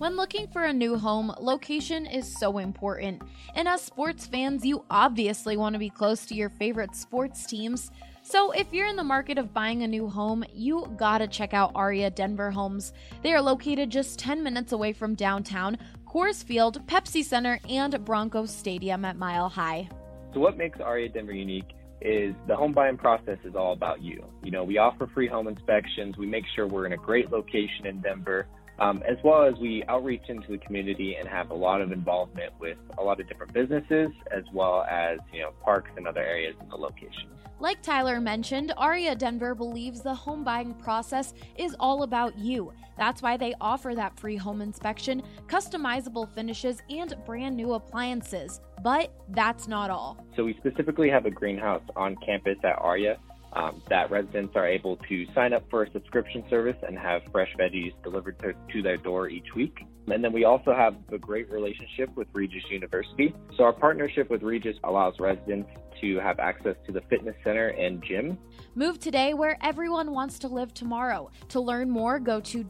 When looking for a new home, location is so important. And as sports fans, you obviously want to be close to your favorite sports teams. So if you're in the market of buying a new home, you gotta check out Aria Denver Homes. They are located just 10 minutes away from downtown, Coors Field, Pepsi Center, and Broncos Stadium at Mile High. So what makes Aria Denver unique is the home buying process is all about you. You know, we offer free home inspections. We make sure we're in a great location in Denver. As well as we outreach into the community and have a lot of involvement with a lot of different businesses, as well as, parks and other areas in the location. Like Tyler mentioned, Aria Denver believes the home buying process is all about you. That's why they offer that free home inspection, customizable finishes, and brand new appliances. But that's not all. So we specifically have a greenhouse on campus at Aria that residents are able to sign up for a subscription service and have fresh veggies delivered to their door each week. And then we also have a great relationship with Regis University. So our partnership with Regis allows residents to have access to the fitness center and gym. Move today where everyone wants to live tomorrow. To learn more, go to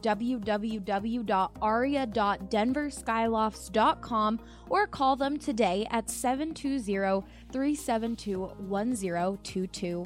www.aria.denverskyloft's.com or call them today at 720-372-1022.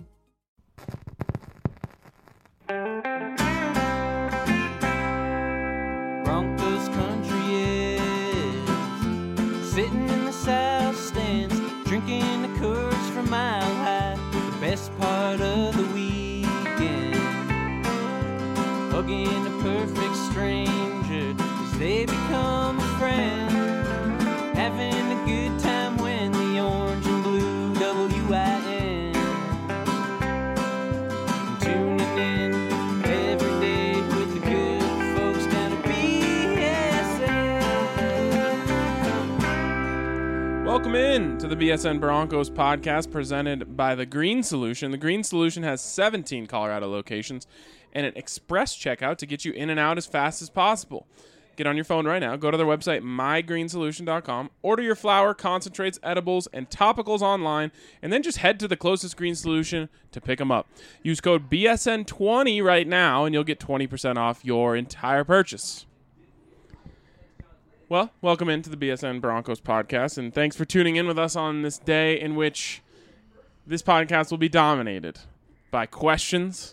Broncos country is sitting in the south stands, drinking the Coors from Mile High. The best part of the weekend, hugging a perfect stranger as they become a friend, having a good time when the orange and blue WIN. Tuning in every day with the good folks down at BSN. Welcome in to the BSN Broncos podcast presented by The Green Solution. The Green Solution has 17 Colorado locations and an express checkout to get you in and out as fast as possible. Get on your phone right now. Go to their website, mygreensolution.com. Order your flour, concentrates, edibles, and topicals online, and then just head to the closest Green Solution to pick them up. Use code BSN20 right now, and you'll get 20% off your entire purchase. Well, welcome into the BSN Broncos podcast, and thanks for tuning in with us on this day in which this podcast will be dominated by questions.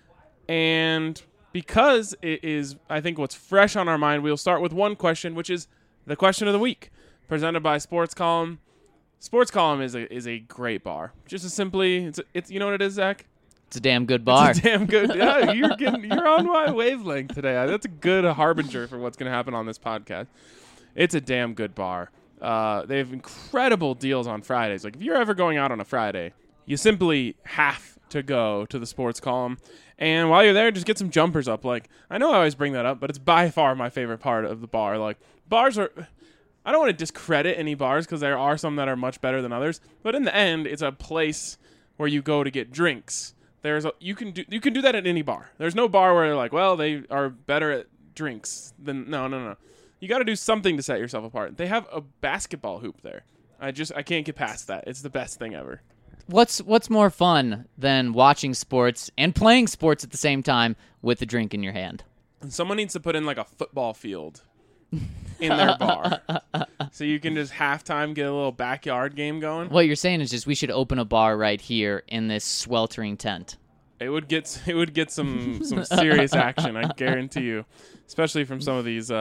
And because it is, I think, what's fresh on our mind, we'll start with one question, which is the question of the week, presented by Sports Column. Sports Column is a great bar. Just as simply, it's you know what it is, Zach? It's a damn good bar. It's a damn good. Yeah, you're on my wavelength today. That's a good harbinger for what's going to happen on this podcast. It's a damn good bar. They have incredible deals on Fridays. Like if you're ever going out on a Friday, you simply have to go to the Sports Column. And while you're there, just get some jumpers up. Like, I know I always bring that up, but it's by far my favorite part of the bar. Like, bars are, I don't want to discredit any bars because there are some that are much better than others. But in the end, it's a place where you go to get drinks. You can do that at any bar. There's no bar where they're like, well, they are better at drinks than no. You got to do something to set yourself apart. They have a basketball hoop there. I can't get past that. It's the best thing ever. What's more fun than watching sports and playing sports at the same time with a drink in your hand? And someone needs to put in like a football field in their bar. So you can just halftime get a little backyard game going. What you're saying is just we should open a bar right here in this sweltering tent. It would get some serious action, I guarantee you. Especially from some of these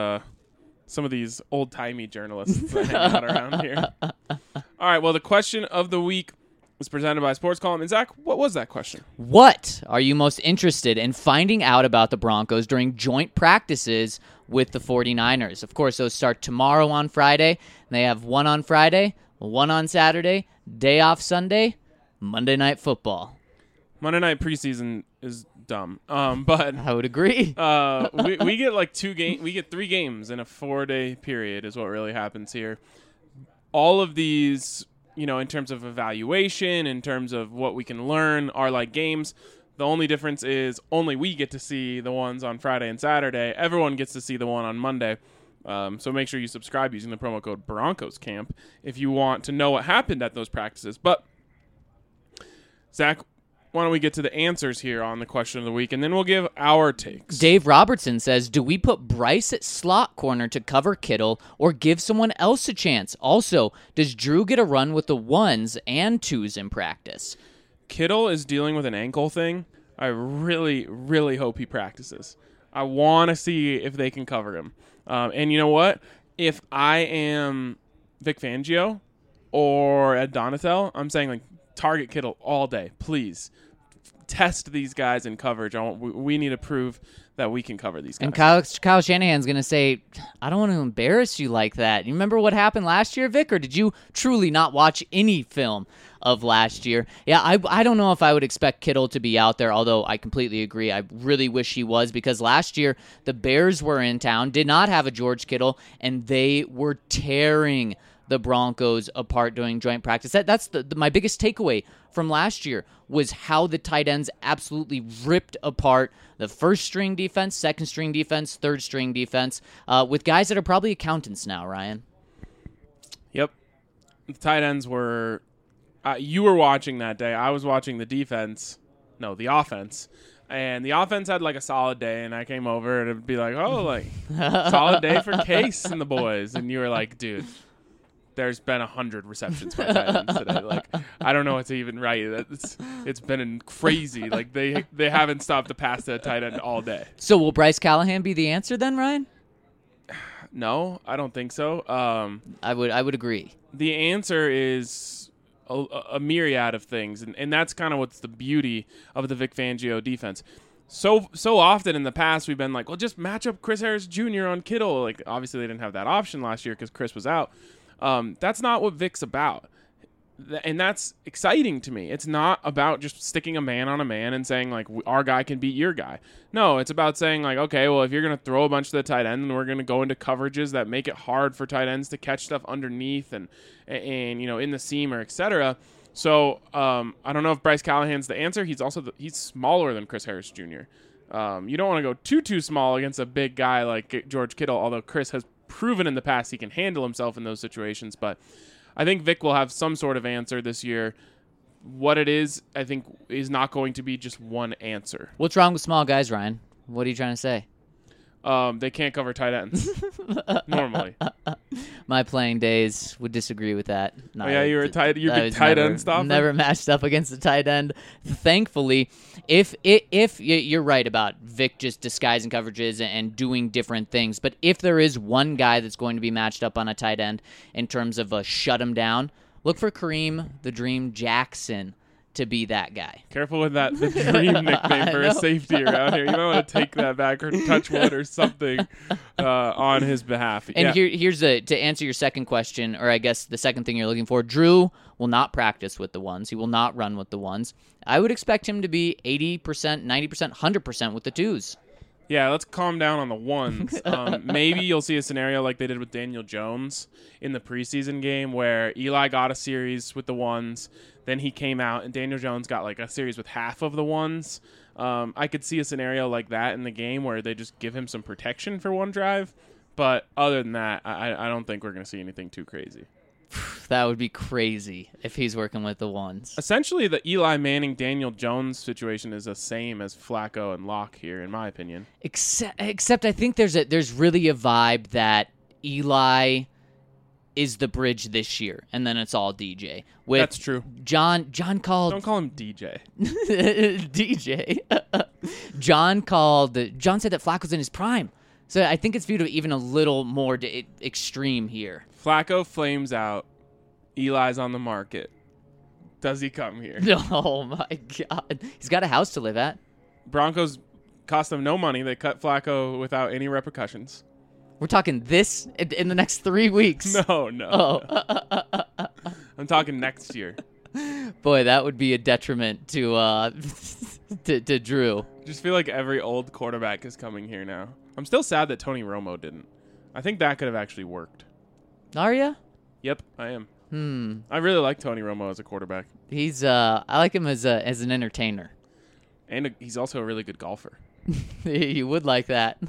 old-timey journalists that hang out around here. All right, well, the question of the week was presented by Sports Column. And Zach, what was that question? What are you most interested in finding out about the Broncos during joint practices with the 49ers? Of course, those start tomorrow on Friday. They have one on Friday, one on Saturday, day off Sunday, Monday Night Football. Monday Night preseason is dumb, but I would agree. we get like 3 games in a 4-day period is what really happens here. All of these, in terms of evaluation, in terms of what we can learn, are like games. The only difference is only we get to see the ones on Friday and Saturday. Everyone gets to see the one on Monday. So make sure you subscribe using the promo code BroncosCamp if you want to know what happened at those practices. But, Zach, why don't we get to the answers here on the question of the week, and then we'll give our takes. Dave Robertson says, do we put Bryce at slot corner to cover Kittle or give someone else a chance? Also, does Drew get a run with the 1s and 2s in practice? Kittle is dealing with an ankle thing. I really, really hope he practices. I want to see if they can cover him. And you know what? If I am Vic Fangio or Ed Donatel, I'm saying, like, target Kittle all day. Please test these guys in coverage. We need to prove that we can cover these guys. And Kyle Shanahan's going to say, I don't want to embarrass you like that. You remember what happened last year, Vic, or did you truly not watch any film of last year? Yeah, I don't know if I would expect Kittle to be out there, although I completely agree. I really wish he was, because last year the Bears were in town, did not have a George Kittle, and they were tearing the Broncos apart during joint practice. That's my biggest takeaway from last year was how the tight ends absolutely ripped apart the first-string defense, second-string defense, third-string defense, with guys that are probably accountants now, Ryan. Yep. The tight ends were you were watching that day. I was watching the offense. And the offense had like a solid day, and I came over and it'd be like, oh, like solid day for Case and the boys. And you were like, dude, there's been 100 receptions by tight ends today. Like, I don't know what to even write. It's been crazy. Like, they haven't stopped to pass to a tight end all day. So will Bryce Callahan be the answer then, Ryan? No, I don't think so. I would agree. The answer is a myriad of things, and that's kind of what's the beauty of the Vic Fangio defense. So often in the past we've been like, well, just match up Chris Harris Jr. on Kittle. Like, obviously they didn't have that option last year because Chris was out. That's not what Vic's about. And that's exciting to me. It's not about just sticking a man on a man and saying, like, our guy can beat your guy. No, it's about saying, like, okay, well, if you're going to throw a bunch to the tight end, then we're going to go into coverages that make it hard for tight ends to catch stuff underneath and you know, in the seam or et cetera. So I don't know if Bryce Callahan's the answer. He's also he's smaller than Chris Harris Jr. You don't want to go too small against a big guy like George Kittle, although Chris has proven in the past he can handle himself in those situations. But I think Vic will have some sort of answer this year. What it is, I think, is not going to be just one answer. What's wrong with small guys, Ryan? What are you trying to say? They can't cover tight ends normally. My playing days would disagree with that. No, oh, yeah, you were tight. You could tight end stopper. Never matched up against the tight end. Thankfully, if you're right about Vic just disguising coverages and doing different things, but if there is one guy that's going to be matched up on a tight end in terms of a shut him down, look for Kareem the Dream Jackson to be that guy. Careful with that, the Dream nickname for a safety around here. You might want to take that back or touch wood or something on his behalf. And here's to answer your second question, or I guess the second thing you're looking for. Drew will not practice with the ones. He will not run with the ones. I would expect him to be 80%, 90%, 100% with the twos. Yeah, let's calm down on the ones. Maybe you'll see a scenario like they did with Daniel Jones in the preseason game where Eli got a series with the ones, then he came out, and Daniel Jones got like a series with half of the ones. I could see a scenario like that in the game where they just give him some protection for one drive. But other than that, I don't think we're going to see anything too crazy. That would be crazy if he's working with the ones. Essentially, the Eli Manning, Daniel Jones situation is the same as Flacco and Locke here, in my opinion. Except I think there's really a vibe that Eli is the bridge this year, and then it's all DJ. That's true. John called... Don't call him DJ. DJ. John said that Flacco's in his prime. So I think it's viewed even a little more extreme here. Flacco flames out. Eli's on the market. Does he come here? Oh, my God. He's got a house to live at. Broncos cost them no money. They cut Flacco without any repercussions. We're talking this in the next 3 weeks. No. Oh. I'm talking next year. Boy, that would be a detriment to Drew. Just feel like every old quarterback is coming here now. I'm still sad that Tony Romo didn't. I think that could have actually worked. Are ya? Yep, I am. I really like Tony Romo as a quarterback. I like him as an entertainer. And he's also a really good golfer. You would like that.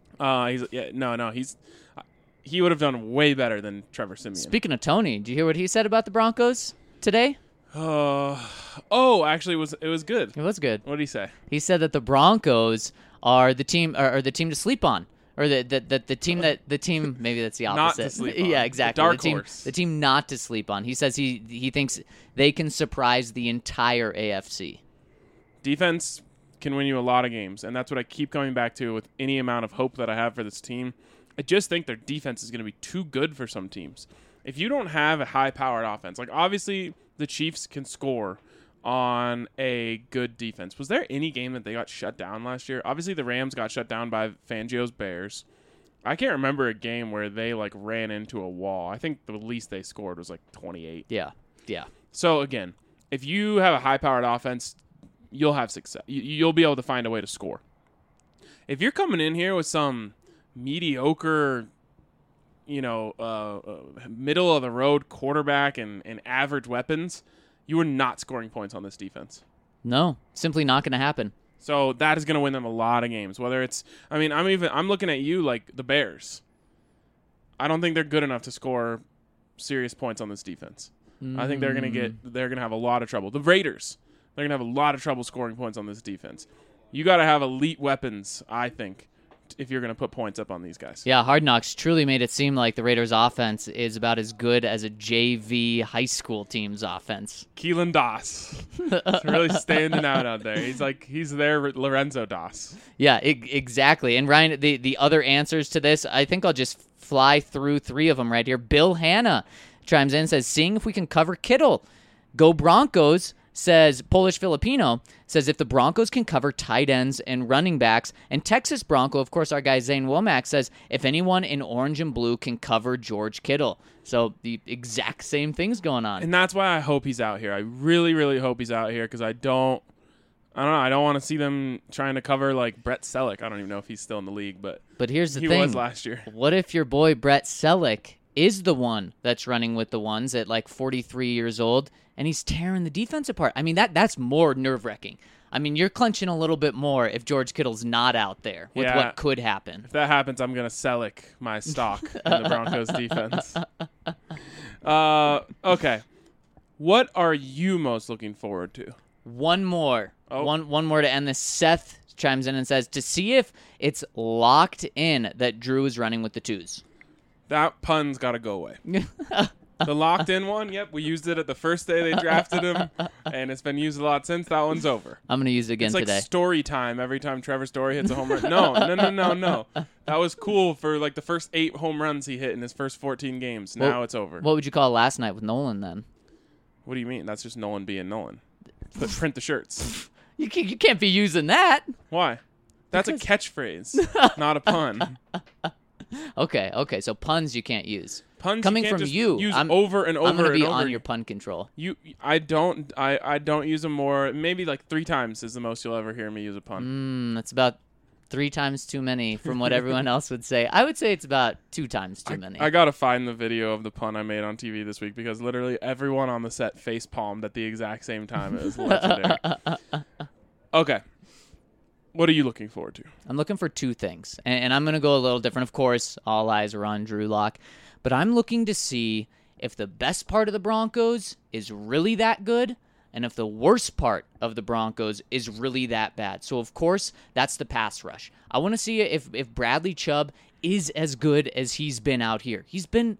He would have done way better than Trevor Siemian. Speaking of Tony, did you hear what he said about the Broncos today? Actually, it was good. It was good. What did he say? He said that the Broncos are the team, or the team to sleep on, or the team. Maybe that's the opposite. Not to sleep on. Yeah, exactly. The dark horse. The team not to sleep on. He says he thinks they can surprise the entire AFC. Defense can win you a lot of games, and that's what I keep coming back to with any amount of hope that I have for this team. I just think their defense is going to be too good for some teams. If you don't have a high-powered offense, like obviously the Chiefs can score on a good defense. Was there any game that they got shut down last year? Obviously the Rams got shut down by Fangio's Bears. I can't remember a game where they like ran into a wall. I think the least they scored was like 28. Yeah. So again, if you have a high-powered offense, you'll have success. You'll be able to find a way to score. If you're coming in here with some mediocre, middle of the road quarterback and average weapons, you are not scoring points on this defense. No, simply not going to happen. So that is going to win them a lot of games. Whether it's, I'm looking at you like the Bears. I don't think they're good enough to score serious points on this defense. I think they're going to have a lot of trouble. The Raiders, they're going to have a lot of trouble scoring points on this defense. You got to have elite weapons, I think, if you're going to put points up on these guys. Yeah, Hard Knocks truly made it seem like the Raiders' offense is about as good as a JV high school team's offense. Keelan Doss. He's really standing out there. He's their Lorenzo Doss. Yeah, exactly. And Ryan, the other answers to this, I think I'll just fly through three of them right here. Bill Hanna chimes in and says, seeing if we can cover Kittle. Go Broncos. Says Polish Filipino, says if the Broncos can cover tight ends and running backs, and Texas Bronco, of course, our guy Zane Womack says if anyone in orange and blue can cover George Kittle. So the exact same thing's going on. And that's why I hope he's out here. I really, really hope he's out here because I don't want to see them trying to cover like Brett Selleck. I don't even know if he's still in the league, but here's the thing. He was last year. What if your boy Brett Selleck is the one that's running with the ones at like 43 years old, and he's tearing the defense apart? I mean, that's more nerve-wracking. I mean, you're clenching a little bit more if George Kittle's not out there with what could happen. If that happens, I'm going to Selleck my stock in the Broncos defense. Okay. What are you most looking forward to? One more. One more to end this. Seth chimes in and says, to see if it's locked in that Drew is running with the twos. That pun's got to go away. The locked-in one, yep, we used it at the first day they drafted him, and it's been used a lot since. That one's over. I'm going to use it again today. It's like story time every time Trevor Story hits a home run. No. That was cool for like the first 8 home runs he hit in his first 14 games. Now it's over. What would you call last night with Nolan then? What do you mean? That's just Nolan being Nolan. Print the shirts. You can't be using that. Why? That's a catchphrase, not a pun. Okay. So puns you can't use. Puns coming you can't from just you. Use over and over. I'm going to be and over. on your pun control. I don't use them more. Maybe like 3 times is the most you'll ever hear me use a pun. That's about 3 times too many from what everyone else would say. I would say it's about 2 times too many. I gotta find the video of the pun I made on TV this week because literally everyone on the set face palmed at the exact same time. It was legendary. Okay. What are you looking forward to? I'm looking for 2 things, and I'm going to go a little different. Of course, all eyes are on Drew Lock, but I'm looking to see if the best part of the Broncos is really that good and if the worst part of the Broncos is really that bad. So, of course, that's the pass rush. I want to see if Bradley Chubb is as good as he's been out here. He's been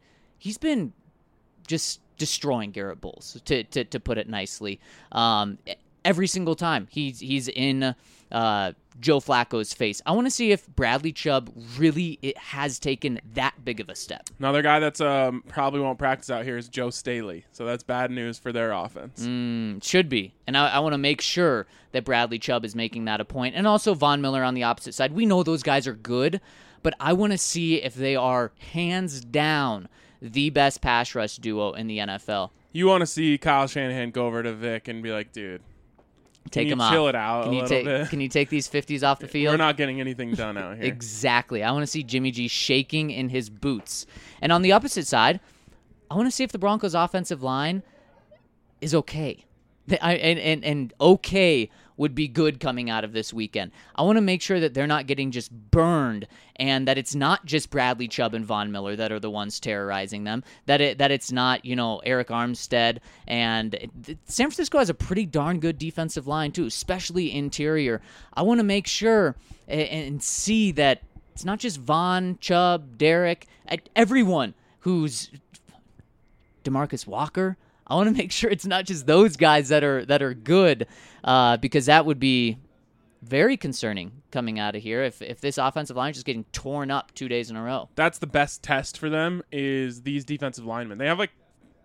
just destroying Garrett Bowles, to put it nicely. Every single time he's in Joe Flacco's face. I want to see if Bradley Chubb really has taken that big of a step. Another guy that's probably won't practice out here is Joe Staley. So that's bad news for their offense. Should be. And I want to make sure that Bradley Chubb is making that a point. And also Von Miller on the opposite side. We know those guys are good, but I want to see if they are hands down the best pass rush duo in the NFL. You want to see Kyle Shanahan go over to Vic and be like, dude, take him off. Chill it out bit. Can you take these 50s off the field? We're not getting anything done out here. Exactly. I want to see Jimmy G shaking in his boots. And on the opposite side, I want to see if the Broncos' offensive line is okay. And okay would be good coming out of this weekend. I want to make sure that they're not getting just burned, and that it's not just Bradley Chubb and Von Miller that are the ones terrorizing them, that it's not, Eric Armstead. And San Francisco has a pretty darn good defensive line too, especially interior. I want to make sure and see that it's not just Von, Chubb, Derek, everyone who's DeMarcus Walker. I want to make sure it's not just those guys that are good, because that would be very concerning coming out of here if this offensive line is just getting torn up 2 days in a row. That's the best test for them, is these defensive linemen. They have like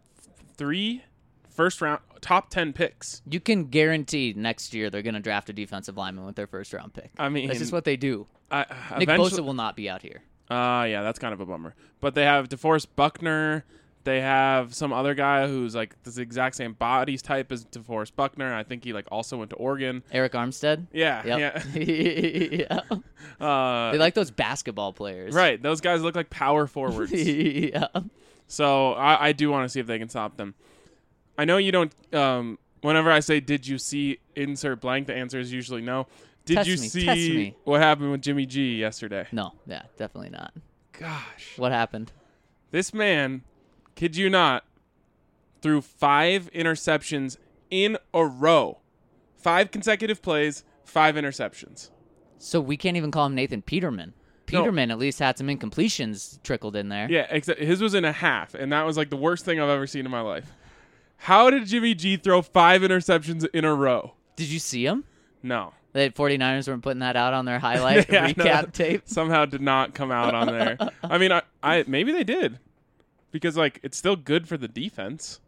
3 first-round top 10 picks. You can guarantee next year they're going to draft a defensive lineman with their first-round pick. I mean, that's just what they do. Nick Eventually, Bosa will not be out here. Yeah, that's kind of a bummer. But they have DeForest Buckner. They have some other guy who's like the exact same body type as DeForest Buckner. I think he like also went to Oregon. Eric Armstead? Yeah. Yep. Yeah. They like those basketball players. Right. Those guys look like power forwards. Yeah. So I do want to see if they can stop them. I know you don't whenever I say, did you see insert blank, the answer is usually no. Did Test you me. see what happened with Jimmy G yesterday? No. Yeah, definitely not. Gosh. What happened? This man, kid you not, threw 5 interceptions in a row. 5 consecutive plays, 5 interceptions. So we can't even call him Nathan Peterman. Peterman at least had some incompletions trickled in there. Yeah, except his was in a half, and that was like the worst thing I've ever seen in my life. How did Jimmy G throw 5 interceptions in a row? Did you see him? No. The 49ers weren't putting that out on their highlight recap tape. Somehow did not come out on there. I mean, I maybe they did. Because, like, it's still good for the defense.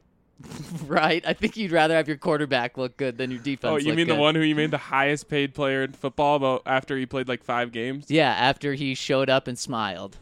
Right. I think you'd rather have your quarterback look good than your defense. Oh, you mean good. The one who you made the highest paid player in football after he played, like, 5 games? Yeah, after he showed up and smiled.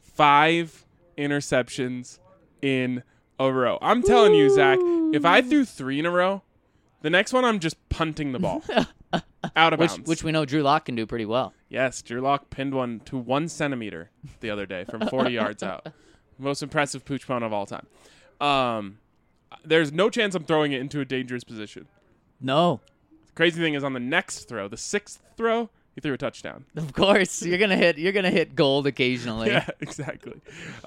5 interceptions in a row. I'm telling you, Zach, if I threw 3 in a row, the next one I'm just punting the ball. Out of bounds. Which we know Drew Lock can do pretty well. Yes, Drew Lock pinned one to 1 centimeter the other day from 40 yards out. Most impressive pooch punt of all time. There's no chance I'm throwing it into a dangerous position. No. The crazy thing is on the next throw, the 6th throw, he threw a touchdown. Of course, you're gonna hit gold occasionally. Yeah, exactly.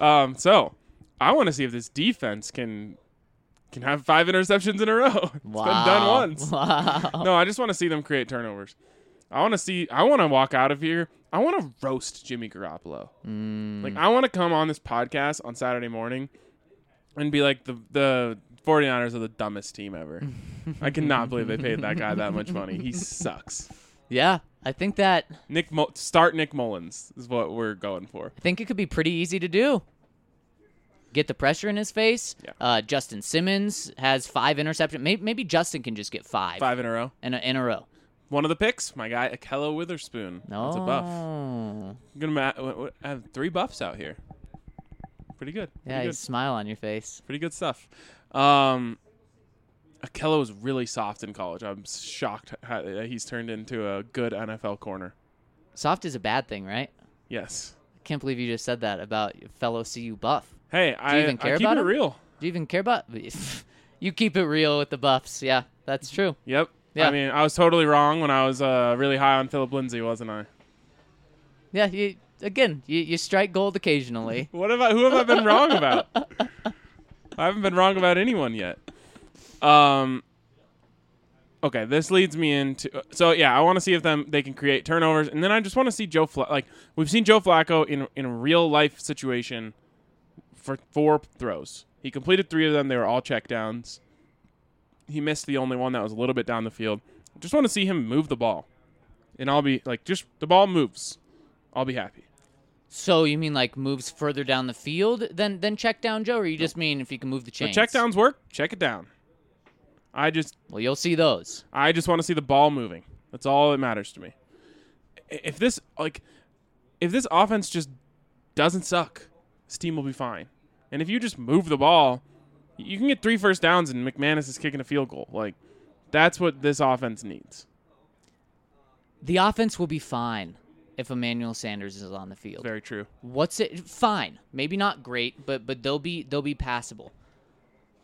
So I want to see if this defense can have 5 interceptions in a row. It's been done once. Wow. No, I just want to see them create turnovers. I want to walk out of here. I want to roast Jimmy Garoppolo. Like, I want to come on this podcast on Saturday morning and be like, the 49ers are the dumbest team ever. I cannot believe they paid that guy that much money. He sucks. Yeah, I think that... Start Nick Mullins is what we're going for. I think it could be pretty easy to do. Get the pressure in his face. Yeah. Justin Simmons has 5 interceptions. Maybe Justin can just get 5. 5 in a row. In a row. One of the picks, my guy, Akello Witherspoon. That's a buff. I'm going to have 3 buffs out here. Pretty good. Yeah, you smile on your face. Pretty good stuff. Akello was really soft in college. I'm shocked how he's turned into a good NFL corner. Soft is a bad thing, right? Yes. I can't believe you just said that about your fellow CU buff. Hey, I keep it real. Do you even care about You keep it real with the buffs. Yeah, that's true. Yep. Yeah. I mean, I was totally wrong when I was really high on Philip Lindsay, wasn't I? Yeah, you strike gold occasionally. Who have I been wrong about? I haven't been wrong about anyone yet. Okay, this leads me into I want to see if they can create turnovers, and then I just want to see Joe Flacco. Like, we've seen Joe Flacco in a real life situation for 4 throws. He completed 3 of them. They were all checkdowns. He missed the only one that was a little bit down the field. I just want to see him move the ball, and I'll be like, just the ball moves, I'll be happy. So you mean like moves further down the field than check down Joe, or you just mean if you can move the chains? The check downs work. Check it down. Well, you'll see those. I just want to see the ball moving. That's all that matters to me. If this offense just doesn't suck, this team will be fine. And if you just move the ball, you can get 3 first downs and McManus is kicking a field goal. Like, that's what this offense needs. The offense will be fine if Emmanuel Sanders is on the field. Very true. Fine. Maybe not great, but they'll be passable.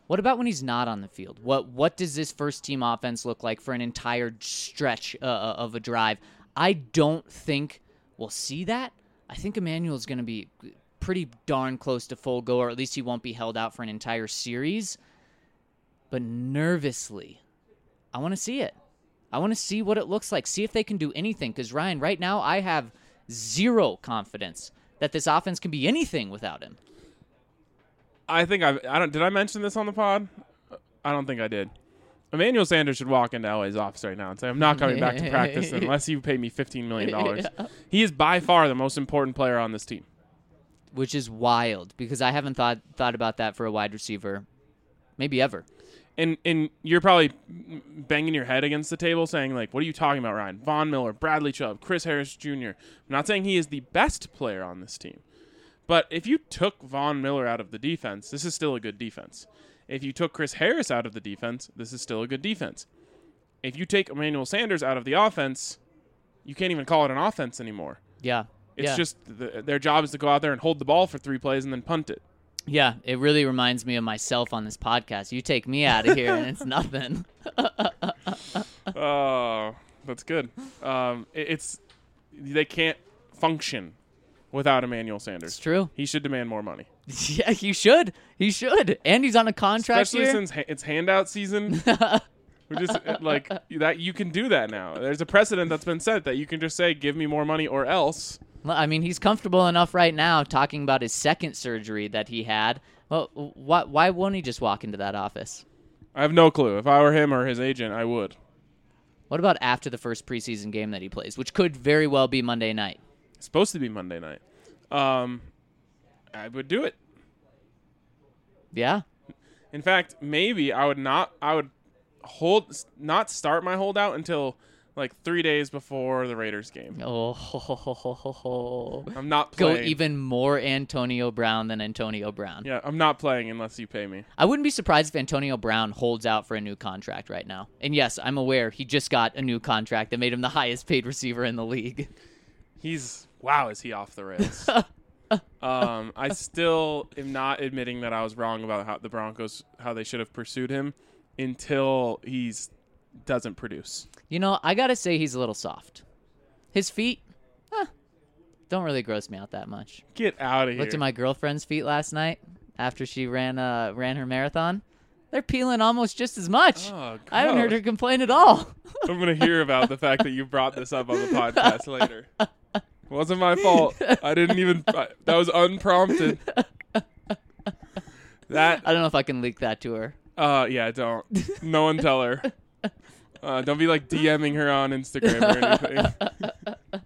What about when he's not on the field? What does this first-team offense look like for an entire stretch of a drive? I don't think we'll see that. I think Emmanuel's going to be pretty darn close to full go, or at least he won't be held out for an entire series. But nervously, I want to see it. I want to see what it looks like, see if they can do anything. Because, Ryan, right now I have zero confidence that this offense can be anything without him. I think did I mention this on the pod? I don't think I did. Emmanuel Sanders should walk into LA's office right now and say, I'm not coming back to practice unless you pay me $15 million. Yeah. He is by far the most important player on this team. Which is wild, because I haven't thought about that for a wide receiver maybe ever. And you're probably banging your head against the table saying, like, what are you talking about, Ryan? Von Miller, Bradley Chubb, Chris Harris Jr. I'm not saying he is the best player on this team. But if you took Von Miller out of the defense, this is still a good defense. If you took Chris Harris out of the defense, this is still a good defense. If you take Emmanuel Sanders out of the offense, you can't even call it an offense anymore. Yeah. It's just their job is to go out there and hold the ball for 3 plays and then punt it. Yeah, it really reminds me of myself on this podcast. You take me out of here and it's nothing. Oh, that's good. They can't function without Emmanuel Sanders. It's true. He should demand more money. Yeah, he should. He should. And he's on a contract especially here. Since it's handout season. We're just like that. You can do that now. There's a precedent that's been set that you can just say, "Give me more money or else." Well, I mean, he's comfortable enough right now talking about his second surgery that he had. Well, why won't he just walk into that office? I have no clue. If I were him or his agent, I would. What about after the first preseason game that he plays, which could very well be Monday night? It's supposed to be Monday night. I would do it. Yeah. In fact, maybe I would not start my holdout until like 3 days before the Raiders game. Oh, I'm not playing. Go even more Antonio Brown than Antonio Brown. Yeah, I'm not playing unless you pay me. I wouldn't be surprised if Antonio Brown holds out for a new contract right now. And yes, I'm aware he just got a new contract that made him the highest paid receiver in the league. Is he off the rails? I still am not admitting that I was wrong about how the Broncos, how they should have pursued him until doesn't produce. You know, I got to say he's a little soft. His feet, don't really gross me out that much. Get out of here. Looked at my girlfriend's feet last night after she ran her marathon. They're peeling almost just as much. Oh, I haven't heard her complain at all. I'm going to hear about the fact that you brought this up on the podcast later. Wasn't my fault. I didn't even. That was unprompted. I don't know if I can leak that to her. Yeah, don't. No one tell her. Don't be like DMing her on Instagram or anything.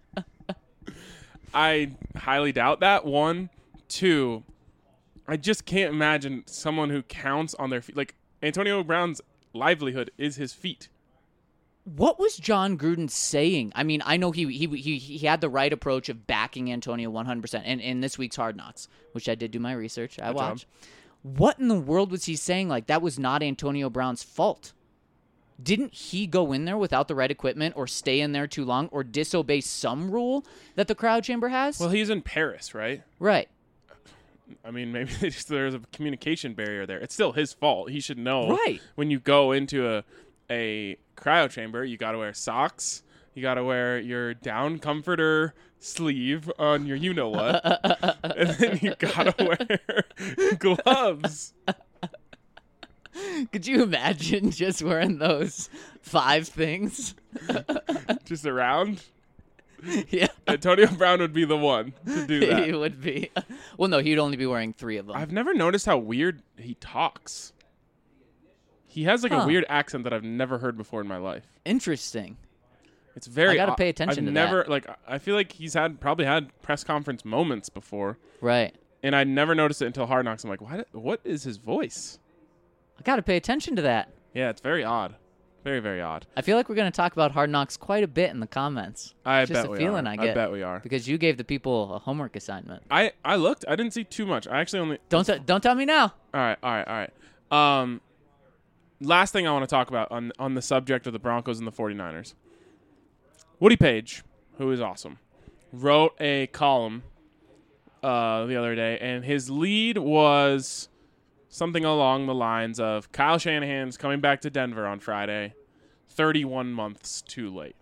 I highly doubt that. 1, 2. I just can't imagine someone who counts on their feet. Like Antonio Brown's livelihood is his feet. What was John Gruden saying? I mean, I know he had the right approach of backing Antonio 100%. And in this week's Hard Knocks, which I did do my research, I watched. What in the world was he saying? Like, that was not Antonio Brown's fault. Didn't he go in there without the right equipment or stay in there too long or disobey some rule that the crowd chamber has? Well, he's in Paris, right? Right. I mean, maybe there's a communication barrier there. It's still his fault. He should know. Right. When you go into a cryo chamber, you got to wear socks. You got to wear your down comforter sleeve on your you-know-what. And then you got to wear gloves. Could you imagine just wearing those 5 things? Just around? Yeah. Antonio Brown would be the one to do that. He would be. Well, no, he'd only be wearing 3 of them. I've never noticed how weird he talks. He has like a weird accent that I've never heard before in my life. Interesting. It's very. I gotta pay attention to that. I feel like he's probably had press conference moments before. Right. And I never noticed it until Hard Knocks. I'm like, what is his voice? I gotta pay attention to that. Yeah, it's very odd. Very, very odd. I feel like we're gonna talk about Hard Knocks quite a bit in the comments. I bet we are. Just a feeling I get. I bet we are. Because you gave the people a homework assignment. I looked. I didn't see too much. I actually only. Don't tell me now. All right. Last thing I want to talk about on the subject of the Broncos and the 49ers. Woody Page, who is awesome, wrote a column the other day, and his lead was something along the lines of Kyle Shanahan's coming back to Denver on Friday, 31 months too late.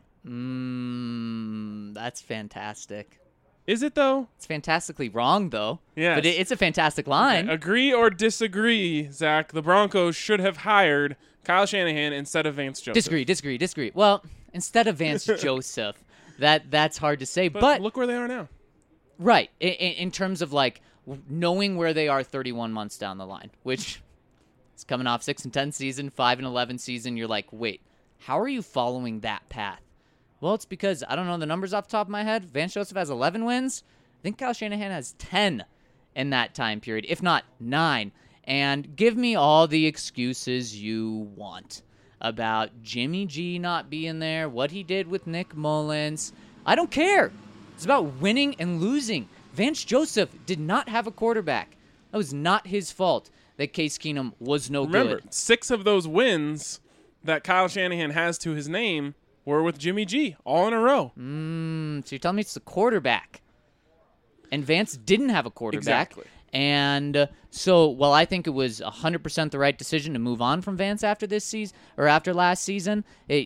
That's fantastic. Is it, though? It's fantastically wrong, though. Yes. But it's a fantastic line. Agree or disagree, Zach? The Broncos should have hired Kyle Shanahan instead of Vance Joseph. Disagree. Well, instead of Vance Joseph, that's hard to say. But look where they are now. Right. In terms of, like, knowing where they are 31 months down the line, which is coming off 6-10 season, 5-11 season. You're like, wait, how are you following that path? Well, it's because, I don't know the numbers off the top of my head. Vance Joseph has 11 wins. I think Kyle Shanahan has 10 in that time period, if not 9. And give me all the excuses you want about Jimmy G not being there, what he did with Nick Mullins. I don't care. It's about winning and losing. Vance Joseph did not have a quarterback. That was not his fault that Case Keenum was no good. Remember, 6 of those wins that Kyle Shanahan has to his name were with Jimmy G, all in a row. So you're telling me it's the quarterback. And Vance didn't have a quarterback. Exactly. And so, while I think it was 100% the right decision to move on from Vance after this season, or after last season,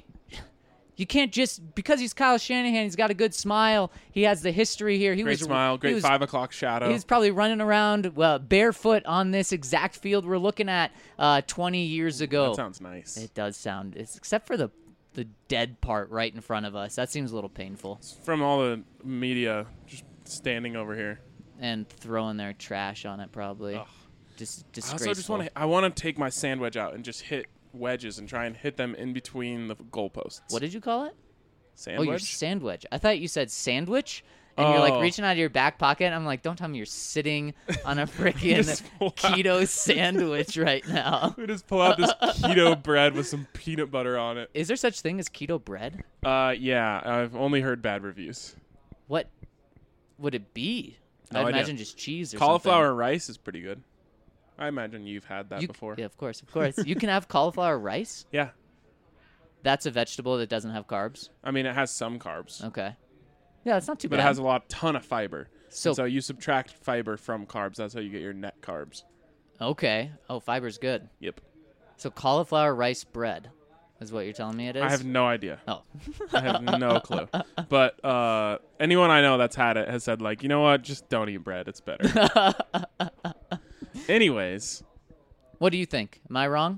you can't just, because he's Kyle Shanahan, he's got a good smile, he has the history here. Great smile, great 5 o'clock shadow. He was probably running around barefoot on this exact field we're looking at 20 years ago. That sounds nice. It does sound, except for the dead part right in front of us. That seems a little painful. From all the media just standing over here. And throwing their trash on it, probably. Ugh. Just I disgraceful. also just want to take my sandwich out and just hit wedges and try and hit them in between the goalposts. What did you call it? Sandwich? Oh, your sandwich. I thought you said sandwich, and you're like reaching out of your back pocket. I'm like, don't tell me you're sitting on a freaking keto sandwich right now. We just pull out this keto bread with some peanut butter on it. Is there such thing as keto bread? Yeah, I've only heard bad reviews. What would it be? I'd imagine just cheese or cauliflower something. rice is pretty good. I imagine you've had that before. Yeah, of course. You can have cauliflower rice? Yeah. That's a vegetable that doesn't have carbs? I mean, it has some carbs. Okay. Yeah, it's not too bad. But it has a ton of fiber. So you subtract fiber from carbs. That's how you get your net carbs. Okay. Oh, fiber's good. Yep. So cauliflower rice bread is what you're telling me it is? I have no idea. Oh. I have no clue. But anyone I know that's had it has said, like, you know what? Just don't eat bread. It's better. Anyways. What do you think? Am I wrong?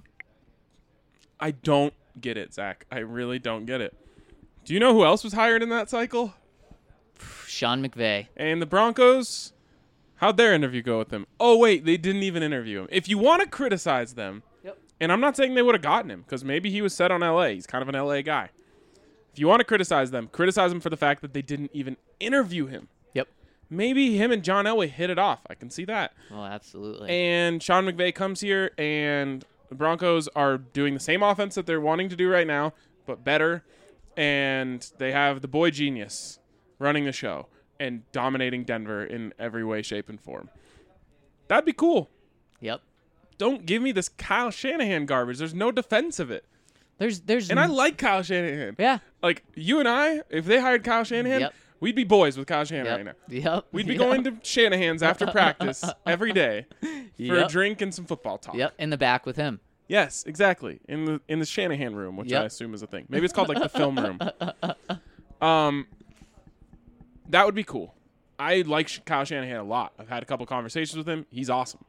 I don't get it, Zach. I really don't get it. Do you know who else was hired in that cycle? Sean McVay. And the Broncos, how'd their interview go with him? Oh, wait, they didn't even interview him. If you want to criticize them, and I'm not saying they would have gotten him, because maybe he was set on L.A. He's kind of an L.A. guy. If you want to criticize them for the fact that they didn't even interview him. Yep. Maybe him and John Elway hit it off. I can see that. Oh, absolutely. And Sean McVay comes here, and the Broncos are doing the same offense that they're wanting to do right now, but better. And they have the boy genius running the show and dominating Denver in every way, shape, and form. That'd be cool. Yep. Don't give me this Kyle Shanahan garbage. There's no defense of it. And I like Kyle Shanahan. Yeah. Like, you and I, if they hired Kyle Shanahan, we'd be boys with Kyle Shanahan right now. Yep. We'd be going to Shanahan's after practice every day for a drink and some football talk. Yep, in the back with him. Yes, exactly. In the Shanahan room, which I assume is a thing. Maybe it's called like the film room. That would be cool. I like Kyle Shanahan a lot. I've had a couple conversations with him. He's awesome.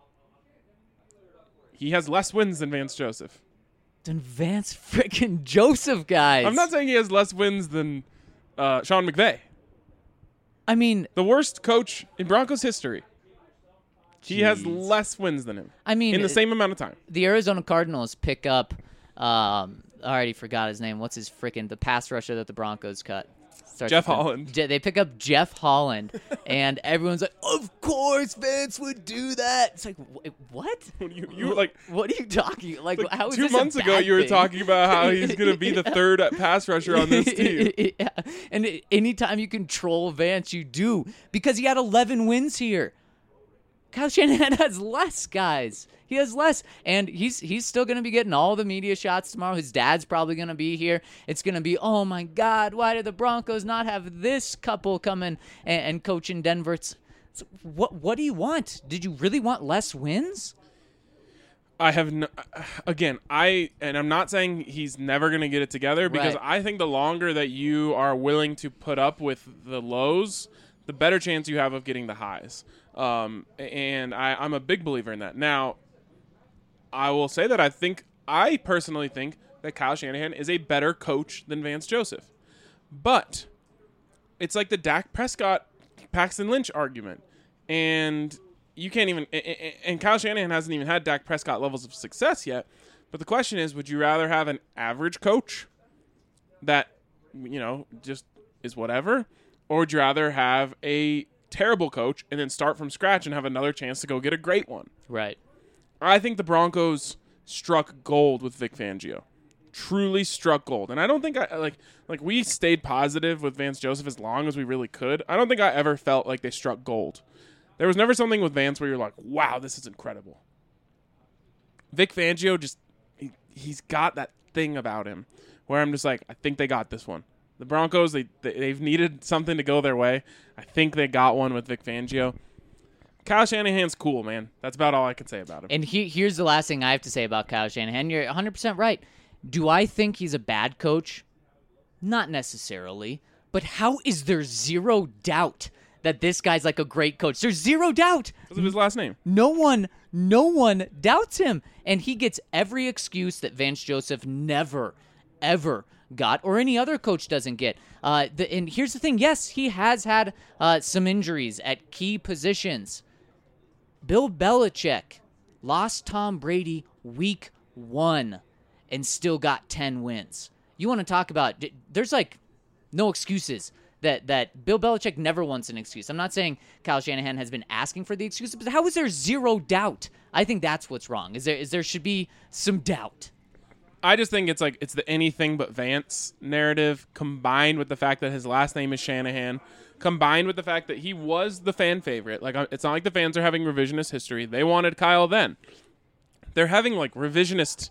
He has less wins than Vance Joseph. Than Vance freaking Joseph, guys. I'm not saying he has less wins than Sean McVay. I mean, the worst coach in Broncos history. He has less wins than him. I mean, in the same amount of time. The Arizona Cardinals pick up, I already forgot his name. What's his the pass rusher that the Broncos cut? Jeff Holland. They pick up Jeff Holland, and everyone's like, "Of course, Vance would do that." It's like, what? You like, what are you talking? Like how is 2 this months a ago, bad you were thing? talking about how he's going to be the third pass rusher on this team. Yeah. And anytime you control Vance, you do, because he had 11 wins here. Kyle Shanahan has less, guys. He has less, and he's still going to be getting all the media shots tomorrow. His dad's probably going to be here. It's going to be, oh, my God, why did the Broncos not have this couple come in and coach in Denver? What do you want? Did you really want less wins? I have I'm not saying he's never going to get it together, because Right. I think the longer that you are willing to put up with the lows, the better chance you have of getting the highs. And I'm a big believer in that. Now, I will say that I personally think that Kyle Shanahan is a better coach than Vance Joseph. But it's like the Dak Prescott, Paxton Lynch argument. And you can't even, and Kyle Shanahan hasn't even had Dak Prescott levels of success yet. But the question is, would you rather have an average coach that, just is whatever? Or would you rather have a terrible coach and then start from scratch and have another chance to go get a great one? Right. I think the Broncos struck gold with Vic Fangio. Truly struck gold. And I don't think we stayed positive with Vance Joseph as long as we really could. I don't think I ever felt like they struck gold. There was never something with Vance where you're like, wow, this is incredible. Vic Fangio he's got that thing about him where I'm just like, I think they got this one. The Broncos, they've needed something to go their way. I think they got one with Vic Fangio. Kyle Shanahan's cool, man. That's about all I can say about him. And here's the last thing I have to say about Kyle Shanahan. You're 100% right. Do I think he's a bad coach? Not necessarily. But how is there zero doubt that this guy's like a great coach? There's zero doubt. Because of his last name. No one doubts him. And he gets every excuse that Vance Joseph never, ever got, or any other coach doesn't get. And here's the thing. Yes, he has had some injuries at key positions. Bill Belichick lost Tom Brady week 1 and still got 10 wins. You want to talk about, there's like no excuses that Bill Belichick never wants an excuse. I'm not saying Kyle Shanahan has been asking for the excuses, but how is there zero doubt? I think that's what's wrong. There should be some doubt. I just think it's the anything but Vance narrative, combined with the fact that his last name is Shanahan, combined with the fact that he was the fan favorite. Like, it's not like the fans are having revisionist history. They wanted Kyle then. They're having like revisionist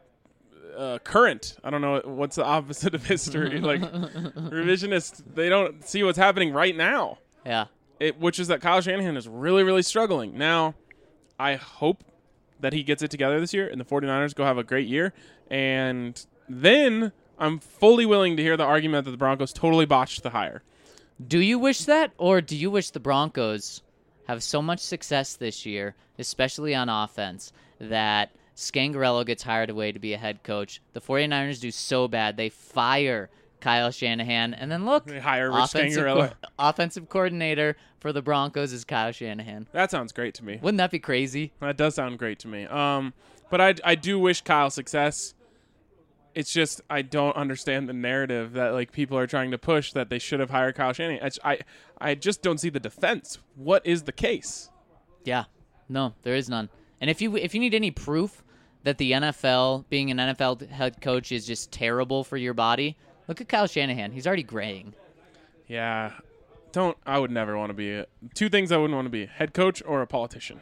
current. I don't know what's the opposite of history. Like revisionist. They don't see what's happening right now. Yeah. Which is that Kyle Shanahan is really, really struggling. Now, I hope that he gets it together this year and the 49ers go have a great year. And then I'm fully willing to hear the argument that the Broncos totally botched the hire. Do you wish that, or do you wish the Broncos have so much success this year, especially on offense, that Scangarello gets hired away to be a head coach? The 49ers do so bad, they fire Kyle Shanahan, and then look, they hire Rich Scangarello. Offensive coordinator for the Broncos is Kyle Shanahan. That sounds great to me. Wouldn't that be crazy? That does sound great to me. But I do wish Kyle success. It's just I don't understand the narrative that like people are trying to push that they should have hired Kyle Shanahan. I just don't see the defense. What is the case? Yeah, no, there is none. And if you need any proof that the NFL, being an NFL head coach, is just terrible for your body, look at Kyle Shanahan. He's already graying. Yeah, I would never want to be two things I wouldn't want to be: head coach or a politician.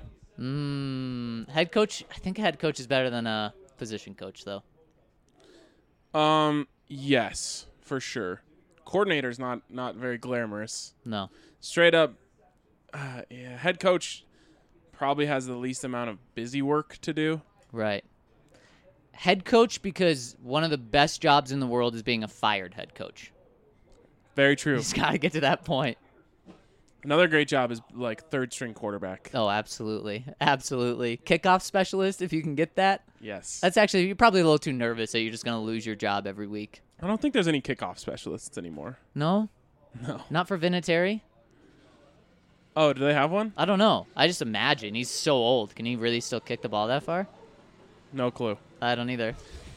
Head coach. I think a head coach is better than a position coach, though. Yes, for sure. Coordinator's not very glamorous. No. Straight up, yeah, head coach probably has the least amount of busy work to do. Right. Head coach, because one of the best jobs in the world is being a fired head coach. Very true. He's got to get to that point. Another great job is like third string quarterback. Oh, absolutely. Absolutely. Kickoff specialist, if you can get that. Yes. That's actually, you're probably a little too nervous that you're just going to lose your job every week. I don't think there's any kickoff specialists anymore. No? No. Not for Vinatieri? Oh, do they have one? I don't know. I just imagine. He's so old. Can he really still kick the ball that far? No clue. I don't either.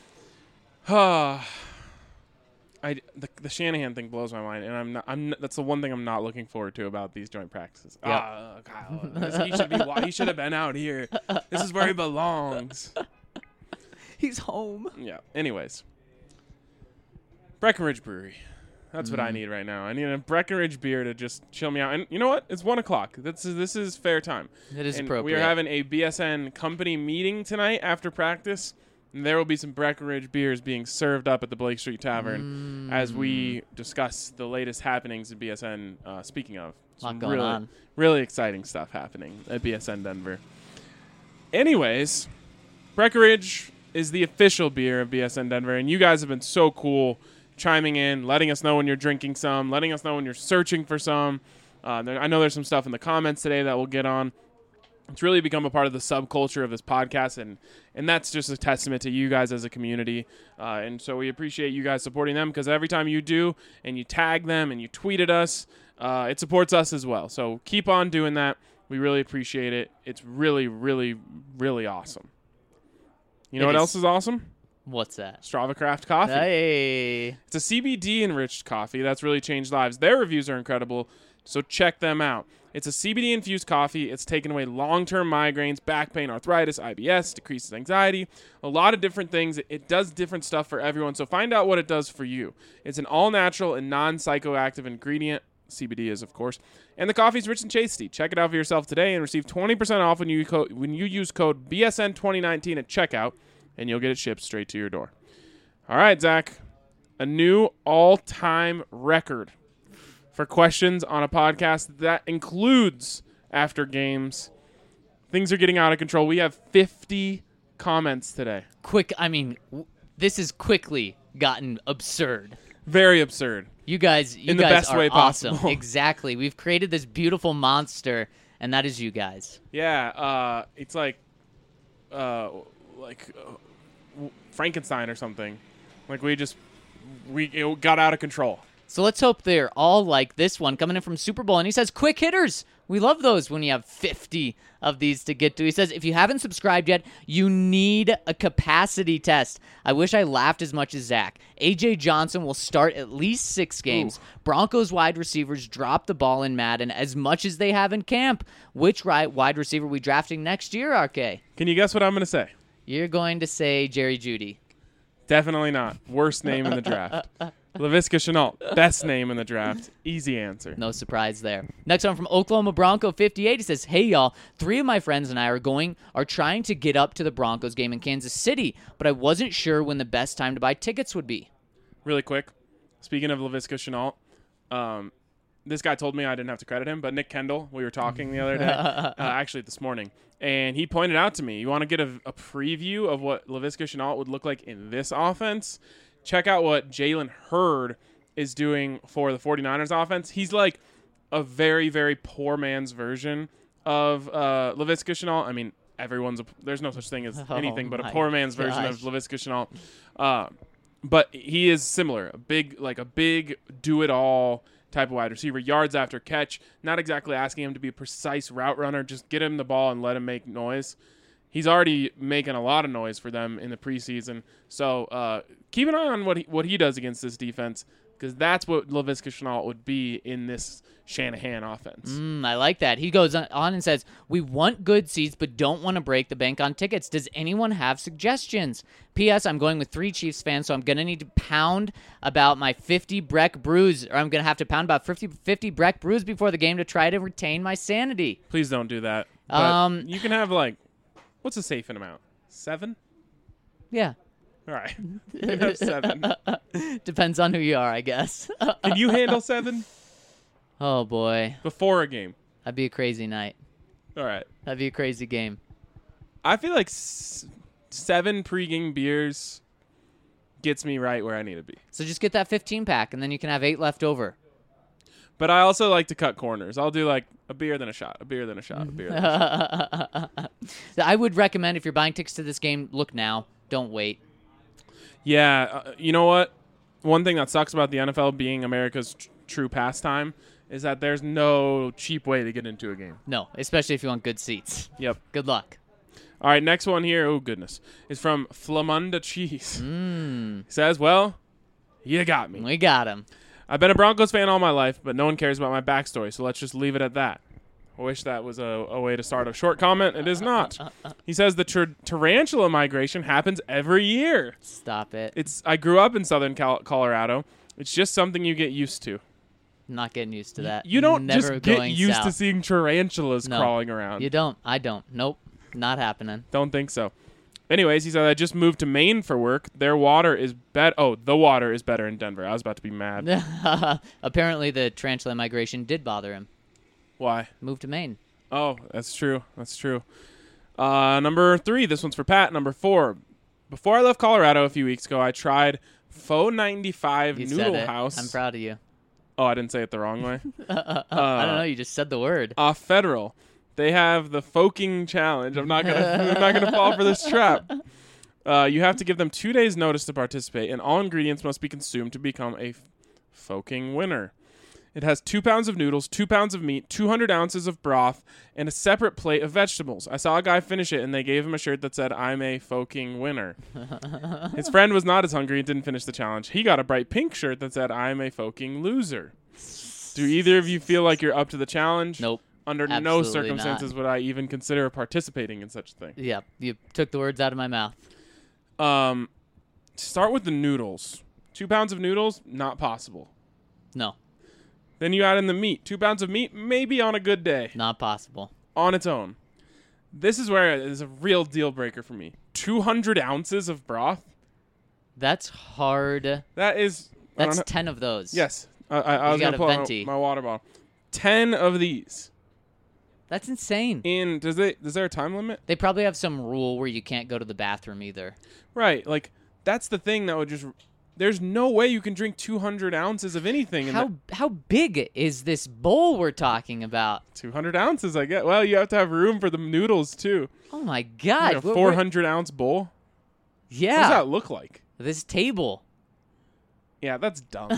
The Shanahan thing blows my mind, and I'm not, that's the one thing I'm not looking forward to about these joint practices. Yep. Kyle, he should have been out here. This is where he belongs. He's home. Yeah. Anyways, Breckenridge Brewery. That's what I need right now. I need a Breckenridge beer to just chill me out. And you know what? It's 1 o'clock. This is fair time. It is and appropriate. We are having a BSN company meeting tonight after practice. And there will be some Breckenridge beers being served up at the Blake Street Tavern as we discuss the latest happenings at BSN. Speaking of, lot going on. Really exciting stuff happening at BSN Denver. Anyways, Breckenridge is the official beer of BSN Denver, and you guys have been so cool chiming in, letting us know when you're drinking some, letting us know when you're searching for some. I know there's some stuff in the comments today that we'll get on. It's really become a part of the subculture of this podcast, and that's just a testament to you guys as a community. And so we appreciate you guys supporting them, because every time you do and you tag them and you tweet at us, it supports us as well. So keep on doing that. We really appreciate it. It's really, really, really awesome. You know what else is awesome? What's that? Strava Craft Coffee. Hey. It's a CBD-enriched coffee that's really changed lives. Their reviews are incredible, so check them out. It's a CBD-infused coffee. It's taken away long-term migraines, back pain, arthritis, IBS, decreases anxiety, a lot of different things. It does different stuff for everyone, so find out what it does for you. It's an all-natural and non-psychoactive ingredient. CBD is, of course. And the coffee's rich and tasty. Check it out for yourself today and receive 20% off when you use code BSN2019 at checkout, and you'll get it shipped straight to your door. All right, Zach. A new all-time record for questions on a podcast that includes after games. Things are getting out of control. We have 50 comments today. This has quickly gotten absurd. Very absurd. You guys in the best are way awesome. possible. Exactly. We've created this beautiful monster, and that is you guys. Yeah, it's like Frankenstein or something. Like it got out of control. So let's hope they're all like this one coming in from Super Bowl. And he says, quick hitters. We love those when you have 50 of these to get to. He says, if you haven't subscribed yet, you need a capacity test. I wish I laughed as much as Zach. A.J. Johnson will start at least 6 games. Ooh. Broncos wide receivers drop the ball in Madden as much as they have in camp. Which wide receiver we drafting next year, RK? Can you guess what I'm going to say? You're going to say Jerry Jeudy. Definitely not. Worst name in the draft. Laviska Shenault, best name in the draft. Easy answer. No surprise there. Next one from Oklahoma Bronco 58. He says, hey, y'all, 3 of my friends and I are trying to get up to the Broncos game in Kansas City, but I wasn't sure when the best time to buy tickets would be. Really quick, speaking of Laviska Shenault, this guy told me I didn't have to credit him, but Nick Kendall, we were talking the other day, actually this morning, and he pointed out to me, you want to get a preview of what Laviska Shenault would look like in this offense? Check out what Jalen Hurd is doing for the 49ers offense. He's like a very, very poor man's version of Laviska Shenault. I mean, there's no such thing as anything but a poor man's version of Laviska Shenault. But he is similar, a big do-it-all type of wide receiver, yards after catch, not exactly asking him to be a precise route runner, just get him the ball and let him make noise. He's already making a lot of noise for them in the preseason. So keep an eye on what he does against this defense, because that's what Laviska Shenault would be in this Shanahan offense. I like that. He goes on and says, we want good seats but don't want to break the bank on tickets. Does anyone have suggestions? P.S. I'm going with 3 Chiefs fans, so I'm going to need to pound about my 50 Breck brews, or I'm going to have to pound about 50 Breck brews before the game to try to retain my sanity. Please don't do that. But you can have what's a safe amount? 7? Yeah. All right. You can have 7. Depends on who you are, I guess. Can you handle 7? Oh, boy. Before a game. That'd be a crazy night. All right. That'd be a crazy game. I feel like 7 pregame beers gets me right where I need to be. So just get that 15-pack, and then you can have 8 left over. But I also like to cut corners. I'll do like a beer, then a shot, a beer, then a shot, a beer, then a shot. I would recommend if you're buying tickets to this game, look now. Don't wait. Yeah. You know what? One thing that sucks about the NFL being America's true pastime is that there's no cheap way to get into a game. No, especially if you want good seats. Yep. Good luck. All right, next one here, oh goodness, is from Flamunda Cheese. He says, well, you got me. We got him. I've been a Broncos fan all my life, but no one cares about my backstory, so let's just leave it at that. I wish that was a way to start a short comment. It is not. He says the tarantula migration happens every year. Stop it. I grew up in southern Colorado. It's just something you get used to. I'm not getting used to that. You don't Never just get used south. to seeing tarantulas crawling around. You don't. I don't. Nope. Not happening. Don't think so. Anyways, he said, I just moved to Maine for work. Their water is better. Oh, the water is better in Denver. I was about to be mad. Apparently the tarantula migration did bother him. Why? Moved to Maine. Oh, that's true. That's true. Number 3, this one's for Pat. Number 4, before I left Colorado a few weeks ago, I tried Faux 95 You Noodle said it. House. I'm proud of you. Oh, I didn't say it the wrong way. I don't know. You just said the word. Off Federal, they have the Foking Challenge. I'm not gonna fall for this trap. You have to give them 2 days' notice to participate, and all ingredients must be consumed to become a Foking winner. It has 2 pounds of noodles, 2 pounds of meat, 200 ounces of broth, and a separate plate of vegetables. I saw a guy finish it, and they gave him a shirt that said, "I'm a Foking winner." His friend was not as hungry and didn't finish the challenge. He got a bright pink shirt that said, "I'm a Foking loser." Do either of you feel like you're up to the challenge? Nope. Under no Absolutely circumstances not. would I even consider participating in such a thing. Yeah, you took the words out of my mouth. Start with the noodles. 2 pounds of noodles, not possible. No, Then you add in the meat. 2 pounds of meat, maybe on a good day, not possible. on its own. This is where it is a real deal breaker for me. 200 ounces of broth? That's hard. That is... I That's don't know- 10 of those. Yes. I was got going to a pull out venti. my water bottle. 10 of these. That's insane. Is there a time limit? They probably have some rule where you can't go to the bathroom either. Right. Like, that's the thing that would just... There's no way you can drink 200 ounces of anything. How big is this bowl we're talking about? 200 ounces, I guess. Well, you have to have room for the noodles, too. Oh my God! Like a 400-ounce bowl? Yeah. What does that look like? This table. Yeah, that's dumb.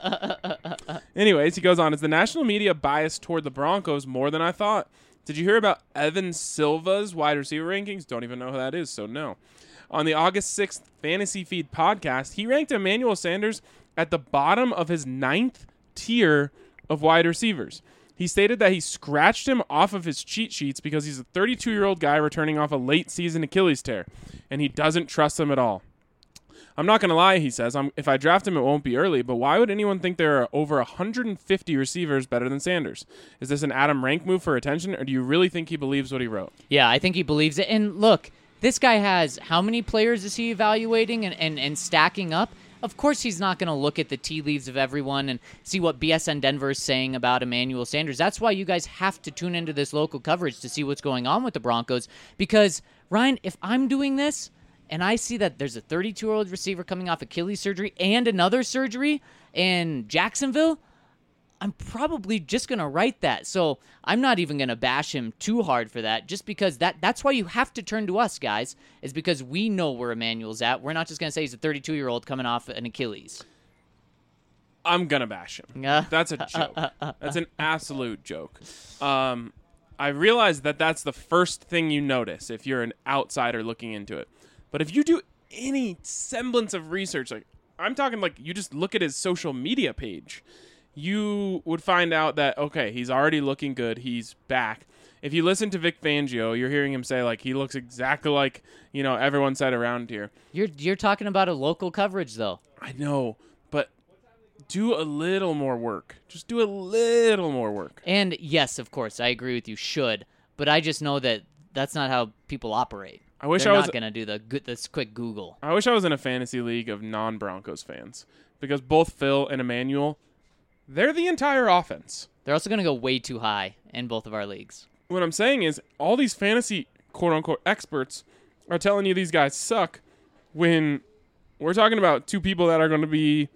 Anyways, he goes on. Is the national media biased toward the Broncos more than I thought? Did you hear about Evan Silva's wide receiver rankings? Don't even know who that is, so no. On the August 6th Fantasy Feed podcast, he ranked Emmanuel Sanders at the bottom of his 9th tier of wide receivers. He stated that he scratched him off of his cheat sheets because he's a 32-year-old guy returning off a late-season Achilles tear, and he doesn't trust him at all. I'm not going to lie, he says. If I draft him, it won't be early, but why would anyone think there are over 150 receivers better than Sanders? Is this an Adam Rank move for attention, or do you really think he believes what he wrote? Yeah, I think he believes it. And look, this guy has how many players is he evaluating and stacking up? Of course he's not going to look at the tea leaves of everyone and see what BSN Denver is saying about Emmanuel Sanders. That's why you guys have to tune into this local coverage to see what's going on with the Broncos. Because, Ryan, if I'm doing this and I see that there's a 32-year-old receiver coming off Achilles surgery and another surgery in Jacksonville, I'm probably just going to write that. So I'm not even going to bash him too hard for that, just because that's why you have to turn to us, guys, is because we know where Emmanuel's at. We're not just going to say he's a 32-year-old coming off an Achilles. I'm going to bash him. That's a joke. That's an absolute joke. I realize that that's the first thing you notice if you're an outsider looking into it. But if you do any semblance of research, like I'm talking like you just look at his social media page, you would find out that, okay, he's already looking good. He's back. If you listen to Vic Fangio, you're hearing him say, like, he looks exactly like, everyone said around here. You're talking about a local coverage, though. I know, but do a little more work. Just do a little more work. And, yes, of course, I agree with you, should. But I just know that that's not how people operate. I wish They're I was not going to do this quick Google. I wish I was in a fantasy league of non-Broncos fans, because both Phil and Emmanuel, they're the entire offense. They're also going to go way too high in both of our leagues. What I'm saying is all these fantasy quote-unquote experts are telling you these guys suck when we're talking about two people that are going to be,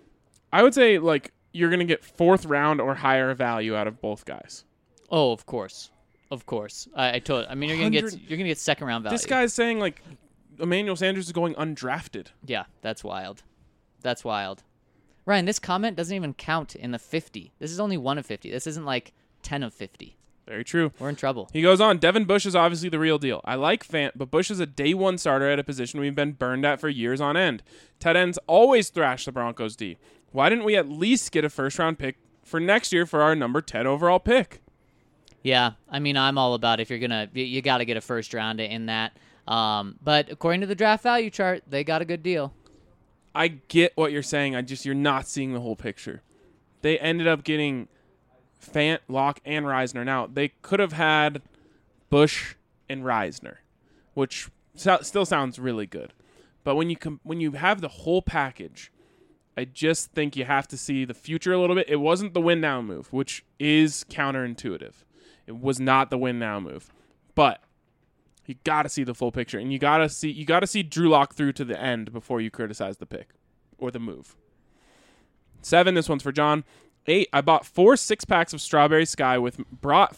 I would say, like, you're going to get 4th round or higher value out of both guys. Oh, of course. Of course. I mean, you're going to get second round value. This guy's saying, like, Emmanuel Sanders is going undrafted. Yeah, that's wild. That's wild. Ryan, this comment doesn't even count in the 50. This is only 1 of 50. This isn't like 10 of 50. Very true. We're in trouble. He goes on, Devin Bush is obviously the real deal. I like Fant, but Bush is a day one starter at a position we've been burned at for years on end. Tight ends always thrash the Broncos D. Why didn't we at least get a first-round pick for next year for our number 10 overall pick? Yeah, I mean, I'm all about if you're going to, you got to get a first round in that. But according to the draft value chart, they got a good deal. I get what you're saying. You're not seeing the whole picture. They ended up getting Fant, Locke, and Reisner. Now, they could have had Bush and Reisner, which still sounds really good. But when you have the whole package, I just think you have to see the future a little bit. It wasn't the win now move, which is counterintuitive. It was not the win now move. But You got to see the full picture, and you got to see Drew Lock through to the end before you criticize the pick or the move. 7, this one's for John. 8, I brought 4 6-packs of Strawberry Sky with me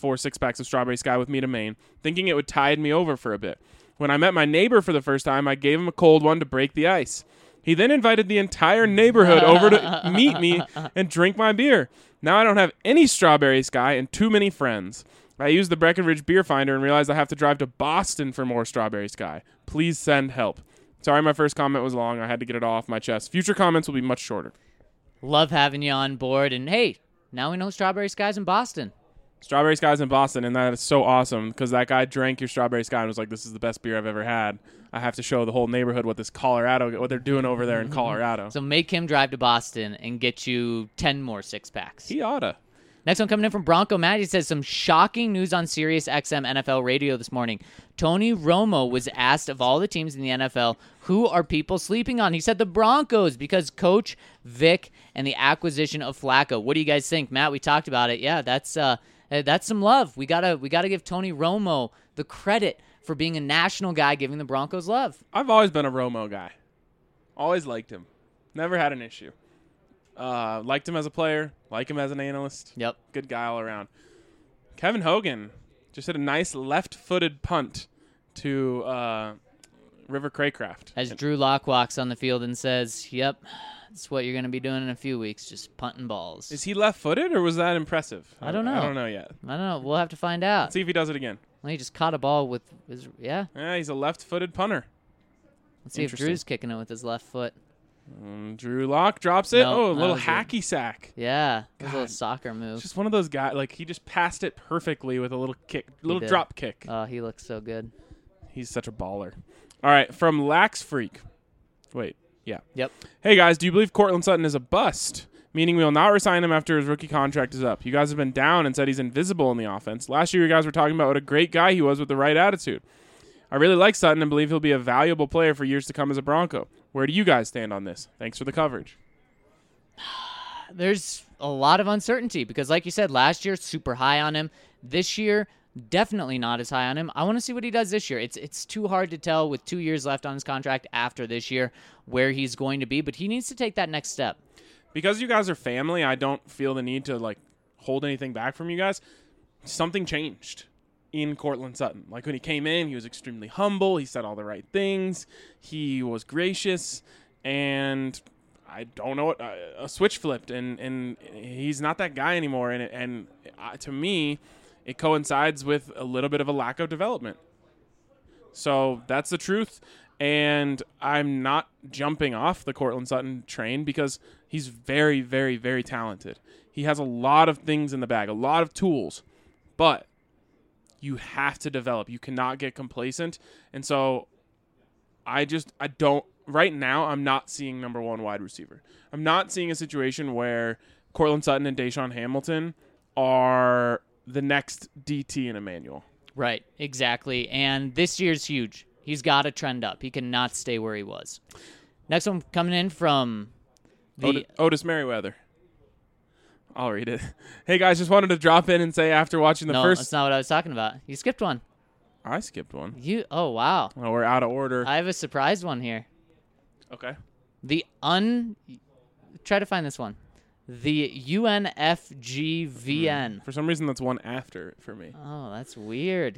to Maine, thinking it would tide me over for a bit. When I met my neighbor for the first time, I gave him a cold one to break the ice. He then invited the entire neighborhood over to meet me and drink my beer. Now I don't have any Strawberry Sky and too many friends. I used the Breckenridge Beer Finder and realized I have to drive to Boston for more Strawberry Sky. Please send help. Sorry my first comment was long. I had to get it all off my chest. Future comments will be much shorter. Love having you on board. And, hey, now we know Strawberry Sky's in Boston. Strawberry Sky's in Boston, and that is so awesome because that guy drank your Strawberry Sky and was like, this is the best beer I've ever had. I have to show the whole neighborhood what they're doing over there in Colorado. So make him drive to Boston and get you 10 more 6-packs. He oughta. Next one coming in from Bronco Matt. He says, some shocking news on Sirius XM NFL radio this morning. Tony Romo was asked of all the teams in the NFL, who are people sleeping on? He said the Broncos because Coach Vic and the acquisition of Flacco. What do you guys think? Matt, we talked about it. Yeah, that's some love. We gotta give Tony Romo the credit for being a national guy, giving the Broncos love. I've always been a Romo guy. Always liked him. Never had an issue. Liked him as a player. Like him as an analyst. Yep. Good guy all around. Kevin Hogan just hit a nice left-footed punt to River Craycraft. As Drew Lock walks on the field and says, yep, that's what you're going to be doing in a few weeks, just punting balls. Is he left-footed, or was that impressive? I don't know. I don't know yet. I don't know. We'll have to find out. Let's see if he does it again. Well, he just caught a ball with his, yeah. Yeah, he's a left-footed punter. Let's see if Drew's kicking it with his left foot. Drew Lock drops it. No, a little that was hacky sack. Yeah, a little soccer move. Just one of those guys. Like, he just passed it perfectly with a little kick, little drop kick. Oh, he looks so good. He's such a baller. All right, from Lax Freak. Wait, yeah. Yep. Hey, guys, do you believe Courtland Sutton is a bust? Meaning we will not resign him after his rookie contract is up. You guys have been down and said he's invisible in the offense. Last year, you guys were talking about what a great guy he was with the right attitude. I really like Sutton and believe he'll be a valuable player for years to come as a Bronco. Where do you guys stand on this? Thanks for the coverage. There's a lot of uncertainty because, like you said, last year, super high on him. This year, definitely not as high on him. I want to see what he does this year. It's too hard to tell with 2 years left on his contract after this year where he's going to be, but he needs to take that next step. Because you guys are family, I don't feel the need to hold anything back from you guys. Something changed in Courtland Sutton. Like when he came in, he was extremely humble. He said all the right things. He was gracious, and I don't know what a switch flipped, and he's not that guy anymore. And to me, it coincides with a little bit of a lack of development. So that's the truth. And I'm not jumping off the Courtland Sutton train because he's very, very, very talented. He has a lot of things in the bag, a lot of tools, but you have to develop. You cannot get complacent. And so right now, I'm not seeing number one wide receiver. I'm not seeing a situation where Courtland Sutton and Deshaun Hamilton are the next DT in Emmanuel. Right, exactly. And this year's huge. He's got to trend up. He cannot stay where he was. Next one coming in from Otis Merriweather. I'll read it. Hey, guys, just wanted to drop in and say after watching the first... No, that's not what I was talking about. You skipped one. I skipped one. Oh, wow. Oh, we're out of order. I have a surprise one here. Okay. Try to find this one. The UNFGVN. For some reason, that's one after for me. Oh, that's weird.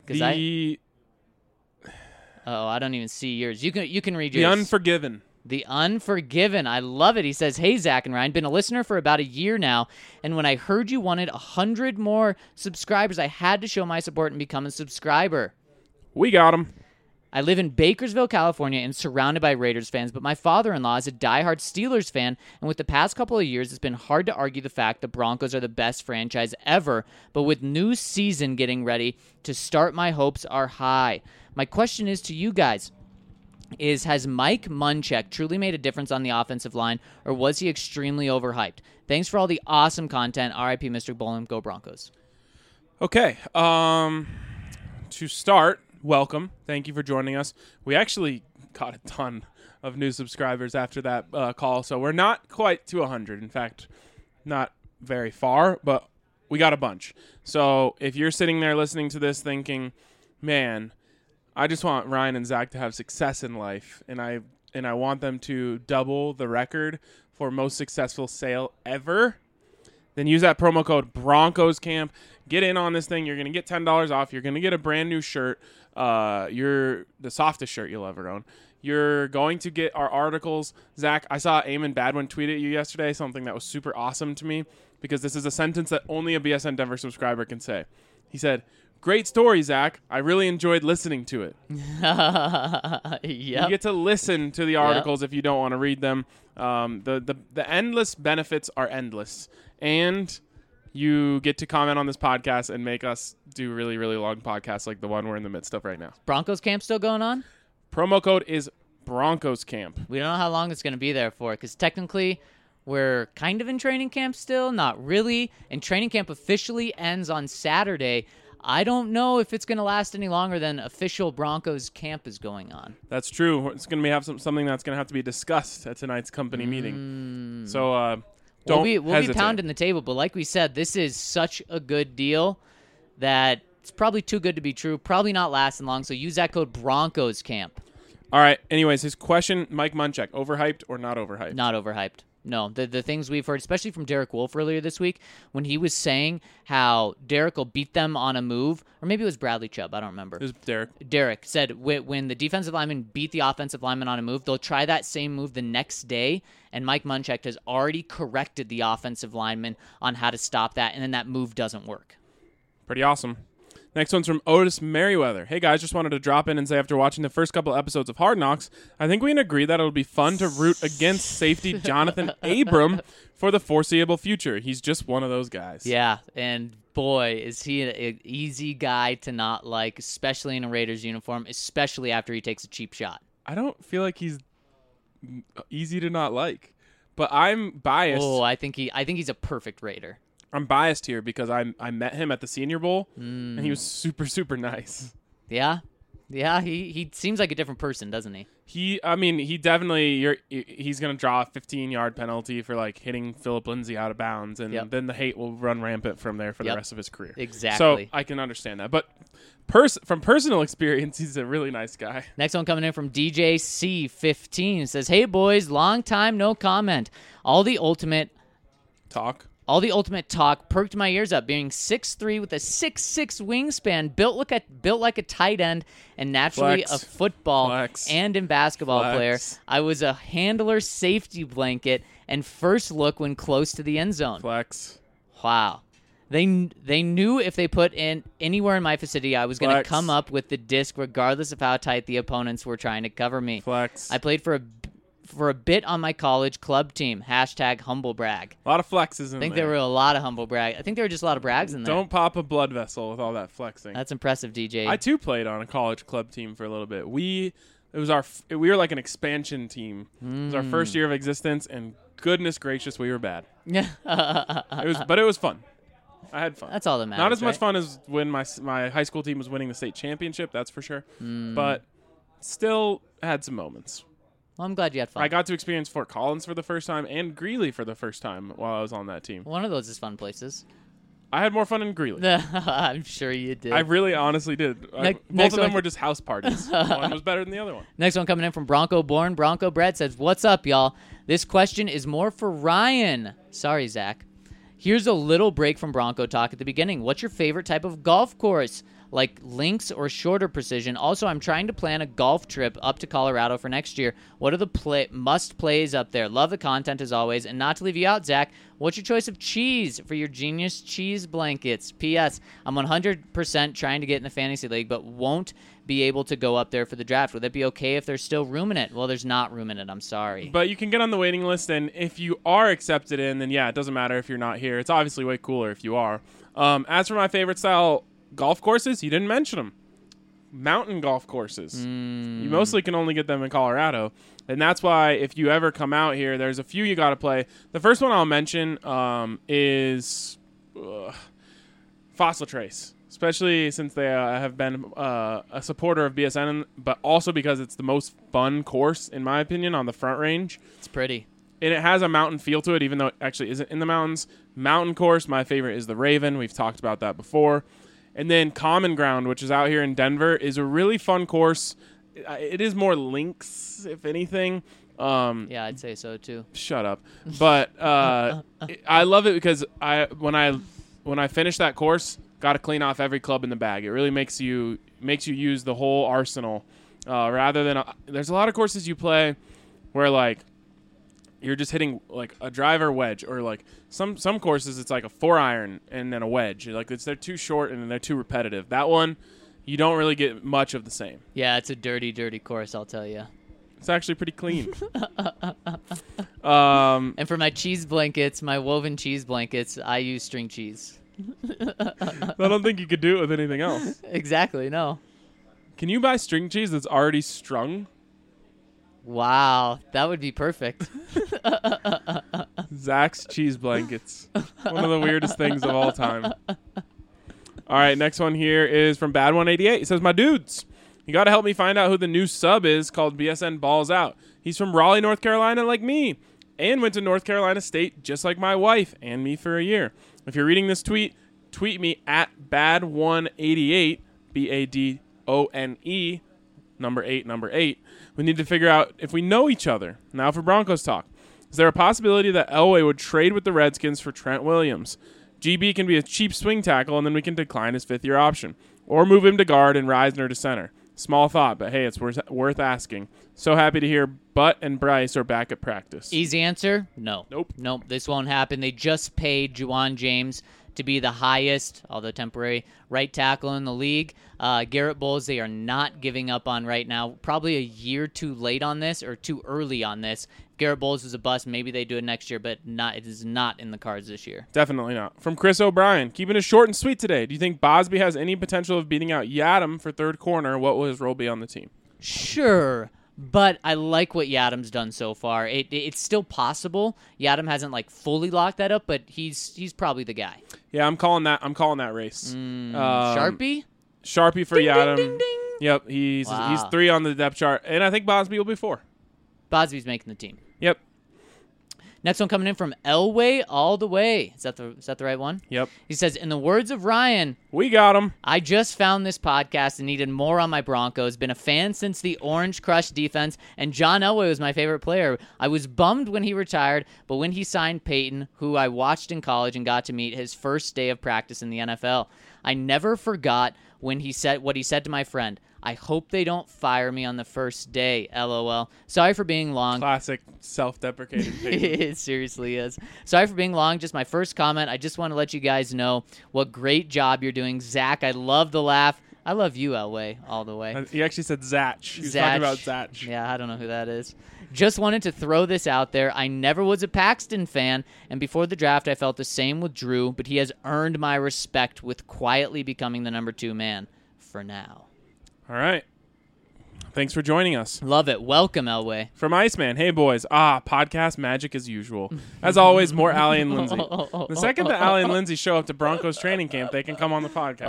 I don't even see yours. You can read yours. The Unforgiven. The Unforgiven. I love it. He says, hey, Zach and Ryan, been a listener for about a year now, and when I heard you wanted 100 more subscribers, I had to show my support and become a subscriber. We got him. I live in Bakersville, California, and surrounded by Raiders fans, but my father-in-law is a diehard Steelers fan, and with the past couple of years, it's been hard to argue the fact the Broncos are the best franchise ever, but with new season getting ready to start, my hopes are high. My question is to you guys, has Mike Munchak truly made a difference on the offensive line, or was he extremely overhyped? Thanks for all the awesome content. R.I.P. Mr. Bowling. Go Broncos. Okay. To start, welcome. Thank you for joining us. We actually got a ton of new subscribers after that call, so we're not quite to 100. In fact, not very far, but we got a bunch. So if you're sitting there listening to this thinking, man, I just want Ryan and Zach to have success in life, and I want them to double the record for most successful sale ever. Then use that promo code Broncos Camp. Get in on this thing. You're going to get $10 off. You're going to get a brand new shirt. You're the softest shirt you'll ever own. You're going to get our articles. Zach, I saw Eamon Badwin tweet at you yesterday, something that was super awesome to me, because this is a sentence that only a BSN Denver subscriber can say. He said, "Great story, Zach. I really enjoyed listening to it." Yep. You get to listen to the articles if you don't want to read them. The endless benefits are endless. And you get to comment on this podcast and make us do really, really long podcasts like the one we're in the midst of right now. Broncos camp still going on? Promo code is Broncos Camp. We don't know how long it's going to be there for, because technically we're kind of in training camp still, not really. And training camp officially ends on Saturday. I don't know if it's going to last any longer than official Broncos camp is going on. That's true. It's going to have something that's going to have to be discussed at tonight's company meeting. So don't We'll be hesitate. pounding the table, but like we said, this is such a good deal that it's probably too good to be true. Probably not lasting long, so use that code Broncos Camp. All right. Anyways, his question, Mike Munchak, overhyped or not overhyped? Not overhyped. No, the things we've heard, especially from Derek Wolfe earlier this week, when he was saying how Derek will beat them on a move, or maybe it was Bradley Chubb, I don't remember. It was Derek. Derek said when the defensive lineman beat the offensive lineman on a move, they'll try that same move the next day, and Mike Munchak has already corrected the offensive lineman on how to stop that, and then that move doesn't work. Pretty awesome. Next one's from Otis Merriweather. Hey, guys, just wanted to drop in and say after watching the first couple episodes of Hard Knocks, I think we can agree that it'll be fun to root against safety Jonathan Abram for the foreseeable future. He's just one of those guys. Yeah, and boy, is he an easy guy to not like, especially in a Raiders uniform, especially after he takes a cheap shot. I don't feel like he's easy to not like, but I'm biased. Oh, I think he's a perfect Raider. I'm biased here because I met him at the Senior Bowl, and he was super, super nice. Yeah, he seems like a different person, doesn't he? He definitely he's gonna draw a 15-yard penalty for like hitting Philip Lindsay out of bounds, and then the hate will run rampant from there for the rest of his career. Exactly. So I can understand that, but from personal experience, he's a really nice guy. Next one coming in from DJC15 says, "Hey boys, long time no comment. All the ultimate talk perked my ears up, being 6'3" with a 6'6" wingspan, built like a tight end, and naturally a football and in basketball player. I was a handler safety blanket and first look when close to the end zone." Flex. Wow. They knew if they put in anywhere in my vicinity, I was going to come up with the disc regardless of how tight the opponents were trying to cover me. Flex. I played for a bit on my college club team. #humblebrag. A lot of flexes in there. I think there were a lot of humble brag. I think there were just a lot of brags in there. Don't pop a blood vessel with all that flexing. That's impressive, DJ. I too played on a college club team for a little bit. We were like an expansion team. It was our first year of existence, and goodness gracious, we were bad. But it was fun. I had fun. That's all that matters. Not as much right? fun as when my high school team was winning the state championship, that's for sure. But still had some moments. Well, I'm glad you had fun. I got to experience Fort Collins for the first time and Greeley for the first time while I was on that team. One of those is fun places. I had more fun in Greeley. I'm sure you did. I really honestly did. Both of them were just house parties. One was better than the other one. Next one coming in from Bronco Born. Bronco Brad says, "What's up, y'all? This question is more for Ryan." Sorry, Zach. Here's a little break from Bronco talk at the beginning. What's your favorite type of golf course? Like links or shorter precision? Also, I'm trying to plan a golf trip up to Colorado for next year. What are the must-plays up there? Love the content as always. And not to leave you out, Zach, what's your choice of cheese for your genius cheese blankets? P.S. I'm 100% trying to get in the fantasy league, but won't be able to go up there for the draft. Would that be okay if there's still room in it? Well, there's not room in it. I'm sorry. But you can get on the waiting list, and if you are accepted in, then yeah, it doesn't matter if you're not here. It's obviously way cooler if you are. As for my favorite style golf courses, you didn't mention them. Mountain golf courses. You mostly can only get them in Colorado. And that's why if you ever come out here, there's a few you got to play. The first one I'll mention is Fossil Trace, especially since they have been a supporter of BSN, but also because it's the most fun course, in my opinion, on the Front Range. It's pretty. And it has a mountain feel to it, even though it actually isn't in the mountains. Mountain course, my favorite is the Raven. We've talked about that before. And then Common Ground, which is out here in Denver, is a really fun course. It is more links, if anything. Yeah, I'd say so too. Shut up. But I love it because when I finish that course, got to clean off every club in the bag. It really makes you use the whole arsenal rather than there's a lot of courses you play where like you're just hitting like a driver wedge, or like some courses it's like a 4-iron and then a wedge. Like they're too short and they're too repetitive. That one you don't really get much of the same. Yeah, it's a dirty course, I'll tell you. It's actually pretty clean. And for my cheese blankets, my woven cheese blankets, I use string cheese. I don't think you could do it with anything else. Exactly, no. Can you buy string cheese that's already strung? Wow, that would be perfect. Zach's cheese blankets. One of the weirdest things of all time. All right, next one here is from Bad188. He says, my dudes, you got to help me find out who the new sub is called BSN Balls Out. He's from Raleigh, North Carolina, like me, and went to North Carolina State just like my wife and me for a year. If you're reading this tweet me at Bad188, BADONE, number 8. We need to figure out if we know each other. Now for Broncos talk. Is there a possibility that Elway would trade with the Redskins for Trent Williams? GB can be a cheap swing tackle, and then we can decline his fifth-year option. Or move him to guard and Reisner to center. Small thought, but hey, it's worth asking. So happy to hear Butt and Bryce are back at practice. Easy answer, no. Nope. This won't happen. They just paid Juwan James to be the highest, although temporary, right tackle in the league. Garrett Bowles, they are not giving up on right now. Probably a year too late on this, or too early on this. Garrett Bowles is a bust. Maybe they do it next year, but it is not in the cards this year. Definitely not. From Chris O'Brien, keeping it short and sweet today. Do you think Bosby has any potential of beating out Yadam for third corner? What will his role be on the team? Sure, but I like what Yadam's done so far. It's still possible. Yadam hasn't like fully locked that up, but he's probably the guy. Yeah, I'm calling that race. Sharpie for ding, Yadam. Ding, ding, ding. Yep, he's Wow. 3 on the depth chart, and I think Bosby will be 4. Bosby's making the team. Yep. Next one coming in from Elway all the way. Is that the right one? Yep. He says, in the words of Ryan, We got him. I just found this podcast and needed more on my Broncos. Been a fan since the Orange Crush defense, and John Elway was my favorite player. I was bummed when he retired, but when he signed Peyton, who I watched in college and got to meet his first day of practice in the NFL, I never forgot when he said what he said to my friend. I hope they don't fire me on the first day, LOL. Sorry for being long. Classic self-deprecating Peyton. It seriously is. Sorry for being long. Just my first comment. I just want to let you guys know what great job you're doing. Zach, I love the laugh. I love you, Elway, all the way. He actually said Zach. He was talking about Zach. Yeah, I don't know who that is. Just wanted to throw this out there. I never was a Paxton fan, and before the draft, I felt the same with Drew, but he has earned my respect with quietly becoming the number 2 man for now. All right. Thanks for joining us. Love it. Welcome, Elway. From Iceman, hey boys. Podcast magic as usual. As always, more Allie and Lindsay. The second that Allie and Lindsay show up to Broncos training camp, they can come on the podcast.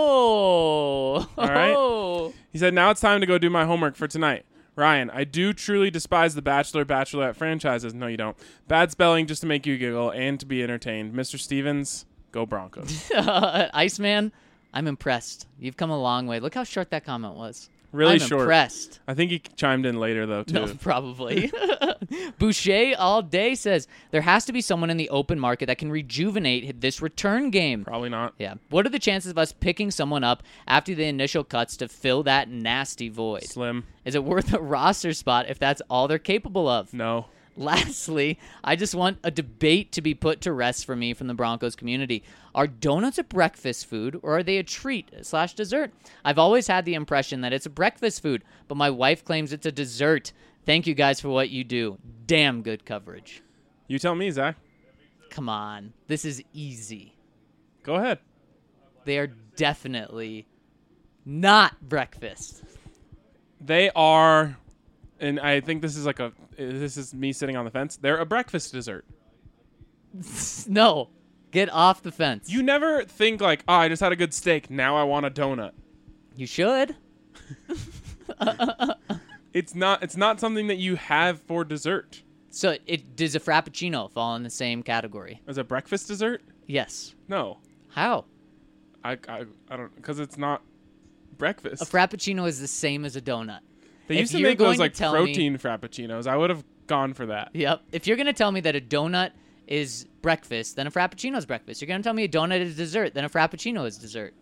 Oh. All right. He said, now it's time to go do my homework for tonight. Ryan, I do truly despise the Bachelor/Bachelorette franchises. No, you don't. Bad spelling just to make you giggle and to be entertained. Mr. Stevens, go Broncos. Iceman, I'm impressed. You've come a long way. Look how short that comment was. Really I'm short. Impressed. I think he chimed in later, though, too. No, probably. Boucher all day says, there has to be someone in the open market that can rejuvenate this return game. Probably not. Yeah. What are the chances of us picking someone up after the initial cuts to fill that nasty void? Slim. Is it worth a roster spot if that's all they're capable of? No. Lastly, I just want a debate to be put to rest for me from the Broncos community. Are donuts a breakfast food, or are they a treat/dessert? I've always had the impression that it's a breakfast food, but my wife claims it's a dessert. Thank you guys for what you do. Damn good coverage. You tell me, Zach. Come on. This is easy. Go ahead. They are definitely not breakfast. They are, and I think this is me sitting on the fence. They're a breakfast dessert. No. Get off the fence. You never think like, oh, I just had a good steak. Now I want a donut. You should. It's not something that you have for dessert. So does a Frappuccino fall in the same category? As a breakfast dessert? Yes. No. How? I don't, because it's not breakfast. A frappuccino is the same as a donut. They if used to you're make those going to like tell protein frappuccinos. I would have gone for that. Yep. If you're going to tell me that a donut is breakfast, then a frappuccino is breakfast. You're going to tell me a donut is dessert, then a frappuccino is dessert.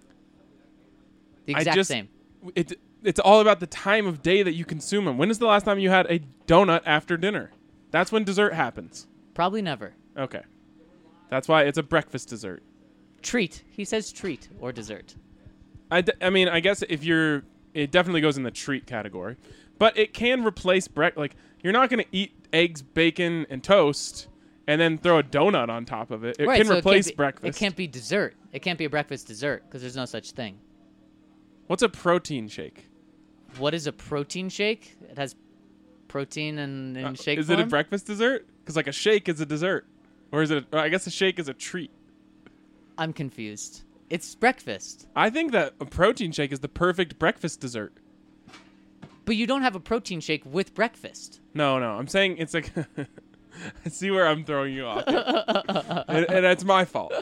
The exact same. It's all about the time of day that you consume them. When is the last time you had a donut after dinner? That's when dessert happens. Probably never. Okay. That's why it's a breakfast dessert. Treat. He says treat or dessert. I mean, I guess it definitely goes in the treat category. But it can replace like, you're not going to eat eggs, bacon, and toast and then throw a donut on top of it. It can replace breakfast. It can't be dessert. It can't be a breakfast dessert because there's no such thing. What's a protein shake? What is a protein shake? It has protein in shake Is form? it a breakfast dessert? Because like a shake is a dessert. Or is it I guess a shake is a treat. I'm confused. It's breakfast. I think that a protein shake is the perfect breakfast dessert. But you don't have a protein shake with breakfast. No. I'm saying it's like... I see where I'm throwing you off. and that's my fault.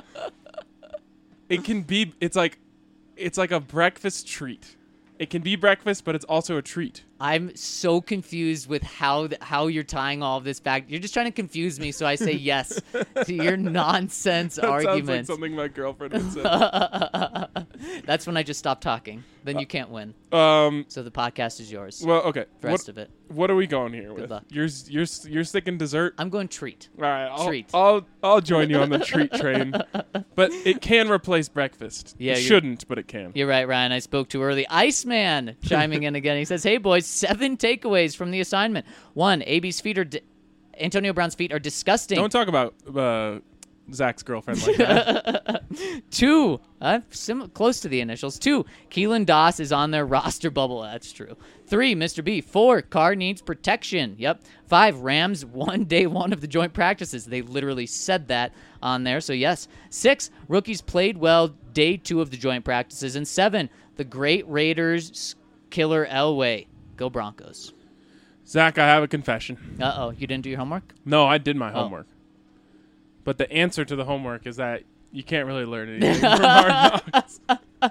It can be... It's like a breakfast treat. It can be breakfast, but it's also a treat. I'm so confused with how you're tying all of this back. You're just trying to confuse me, so I say yes to your nonsense argument. Sounds like something my girlfriend would say. That's when I just stop talking. Then you can't win. So the podcast is yours. Well, okay. The rest of it. What are we going here with? luck. You're sticking dessert. I'm going treat. All right, Treat. I'll join you on the treat train, but it can replace breakfast. Yeah, it shouldn't, but it can. You're right, Ryan. I spoke too early. Iceman chiming in again. He says, "Hey boys, 7 takeaways from the assignment. 1, Antonio Brown's feet are disgusting. Don't talk about Zach's girlfriend like that. 2, close to the initials. 2, Keelan Doss is on their roster bubble. That's true. 3, Mr. B. 4, Carr needs protection. Yep. 5, Rams won day 1 of the joint practices. They literally said that on there, so yes. 6, rookies played well day 2 of the joint practices. And 7, the great Raiders killer Elway. Go Broncos. Zach, I have a confession. Uh-oh. You didn't do your homework? No, I did my homework. But the answer to the homework is that you can't really learn anything from Hard Knocks.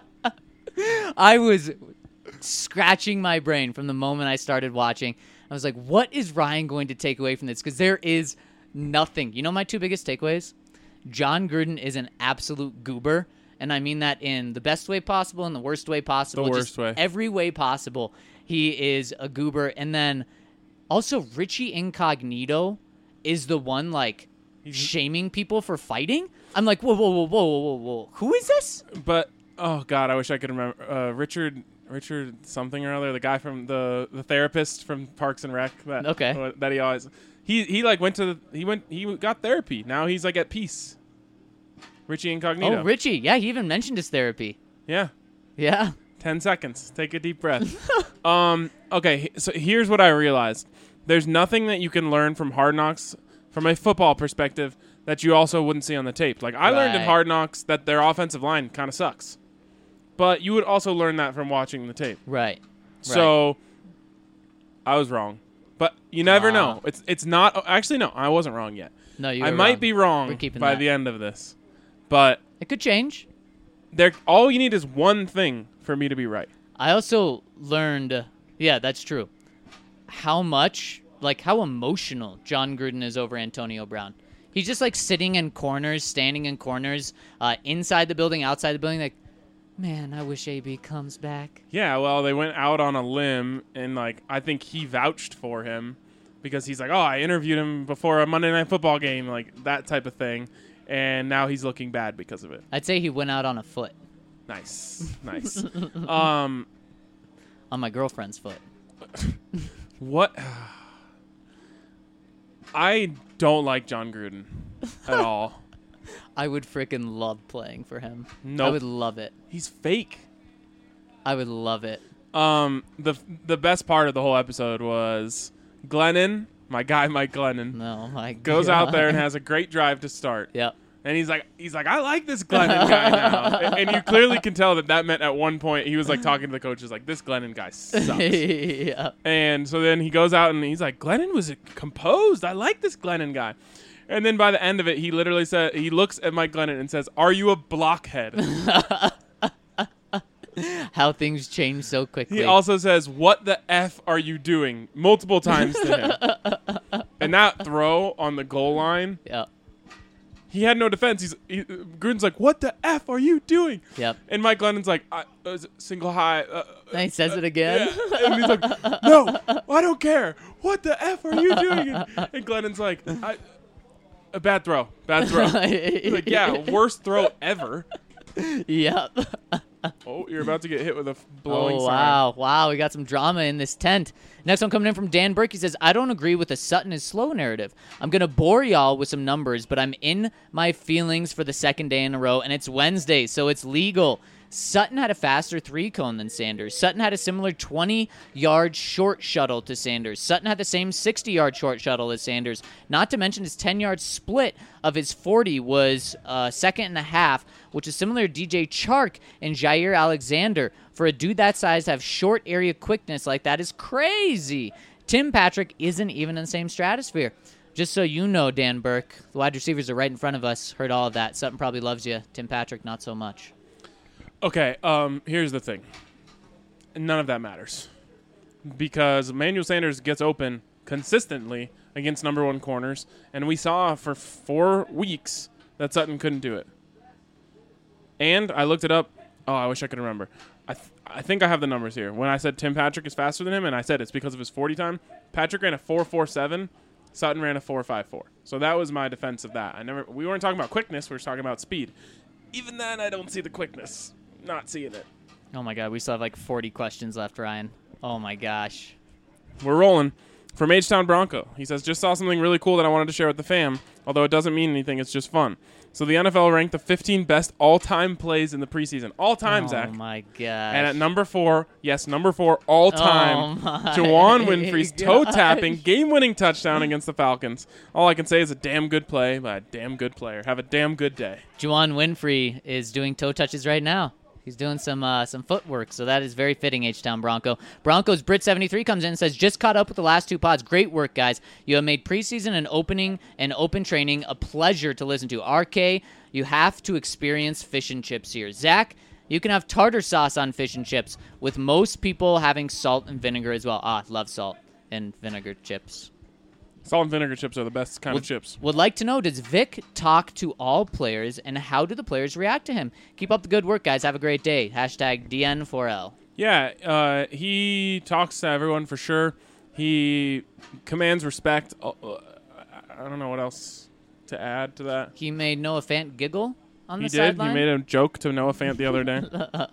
I was scratching my brain from the moment I started watching. I was like, what is Ryan going to take away from this? Because there is nothing. You know my 2 biggest takeaways? John Gruden is an absolute goober. And I mean that in the best way possible and the worst way possible. The worst way. Every way possible. He is a goober. And then also Richie Incognito is the one shaming people for fighting. I'm like, whoa. Who is this? But, oh, God, I wish I could remember. Richard something or other, the guy from the therapist from Parks and Rec. That he always... He got therapy. Now he's at peace. Richie Incognito. Oh, Richie. Yeah, he even mentioned his therapy. Yeah. Yeah. 10 seconds. Take a deep breath. Okay, so here's what I realized. There's nothing that you can learn from Hard Knocks from a football perspective that you also wouldn't see on the tape. I learned in Hard Knocks that their offensive line kind of sucks. But you would also learn that from watching the tape. Right. So I was wrong. But you never know. It's not... Actually, no, I wasn't wrong yet. No, you I might be wrong by the end of this. But... It could change. All you need is one thing for me to be right. I also learned... Yeah, that's true. How emotional John Gruden is over Antonio Brown. He's just sitting in corners, standing in corners, inside the building, outside the building, man, I wish AB comes back. Yeah, well, they went out on a limb, and I think he vouched for him because he's I interviewed him before a Monday Night Football game, that type of thing, and now he's looking bad because of it. I'd say he went out on a foot. Nice. On my girlfriend's foot. What? I don't like John Gruden at all. I would freaking love playing for him. Nope. I would love it. He's fake. I would love it. The best part of the whole episode was Glennon, my guy Mike Glennon. No, my goes God. out there and has a great drive to start. Yep. And he's like, I like this Glennon guy now. And you clearly can tell that meant at one point he was talking to the coaches this Glennon guy sucks. Yeah. And so then he goes out and he's like, Glennon was composed. I like this Glennon guy. And then by the end of it, he literally said, he looks at Mike Glennon and says, "Are you a blockhead?" How things change so quickly. He also says, "What the F are you doing?" multiple times to him. And that throw on the goal line, Yep. he had no defense. Gruden's like, "What the F are you doing?" Yep. And Mike Glennon's like, "Single high." And he says it again. Yeah. And he's like, "No, I don't care. What the F are you doing?" And Glennon's like, "A bad throw. Bad throw." He's like, "Yeah, worst throw ever." Yep. Oh, you're about to get hit with a blowing sign. Wow. We got some drama in this tent. Next one coming in from Dan Burke. He says, I don't agree with the Sutton is slow narrative. I'm going to bore y'all with some numbers, but I'm in my feelings for the second day in a row, and it's Wednesday, so it's legal. Sutton had a faster 3-cone than Sanders. Sutton had a similar 20-yard short shuttle to Sanders. Sutton had the same 60-yard short shuttle as Sanders. Not to mention his 10-yard split of his 40 was second and a half, which is similar to DJ Chark and Jair Alexander. For a dude that size to have short area quickness like that is crazy. Tim Patrick isn't even in the same stratosphere. Just so you know, Dan Burke, the wide receivers are right in front of us. Heard all of that. Sutton probably loves you. Tim Patrick, not so much. Okay, here's the thing. None of that matters. Because Emmanuel Sanders gets open consistently against number one corners, and we saw for 4 weeks that Sutton couldn't do it. And I looked it up. Oh, I wish I could remember. I think I have the numbers here. When I said Tim Patrick is faster than him, and I said it's because of his 40 time, Patrick ran a 4.47, Sutton ran a 4.54. So that was my defense of that. We weren't talking about quickness, we were talking about speed. Even then, I don't see the quickness. Not seeing it. Oh, my God. We still have like 40 questions left, Ryan. Oh, my gosh. We're rolling. From H-Town Bronco. He says, just saw something really cool that I wanted to share with the fam, although it doesn't mean anything. It's just fun. So the NFL ranked the 15 best all-time plays in the preseason. All-time, Zach. Oh, my gosh. And at number 4, all-time, Juwan Winfrey's toe-tapping, game-winning touchdown against the Falcons. All I can say is a damn good play by a damn good player. Have a damn good day. Juwan Winfrey is doing toe touches right now. He's doing some footwork, so that is very fitting, H-Town Bronco. Broncos Brit73 comes in and says, just caught up with the last 2 pods. Great work, guys. You have made preseason and opening and open training a pleasure to listen to. RK, you have to experience fish and chips here. Zach, you can have tartar sauce on fish and chips, with most people having salt and vinegar as well. Love salt and vinegar chips. Salt and vinegar chips are the best kind of chips. Would like to know, does Vic talk to all players, and how do the players react to him? Keep up the good work, guys. Have a great day. Hashtag DN4L. Yeah, he talks to everyone for sure. He commands respect. I don't know what else to add to that. He made Noah Fant giggle on the He sideline. made a joke to Noah Fant the other day.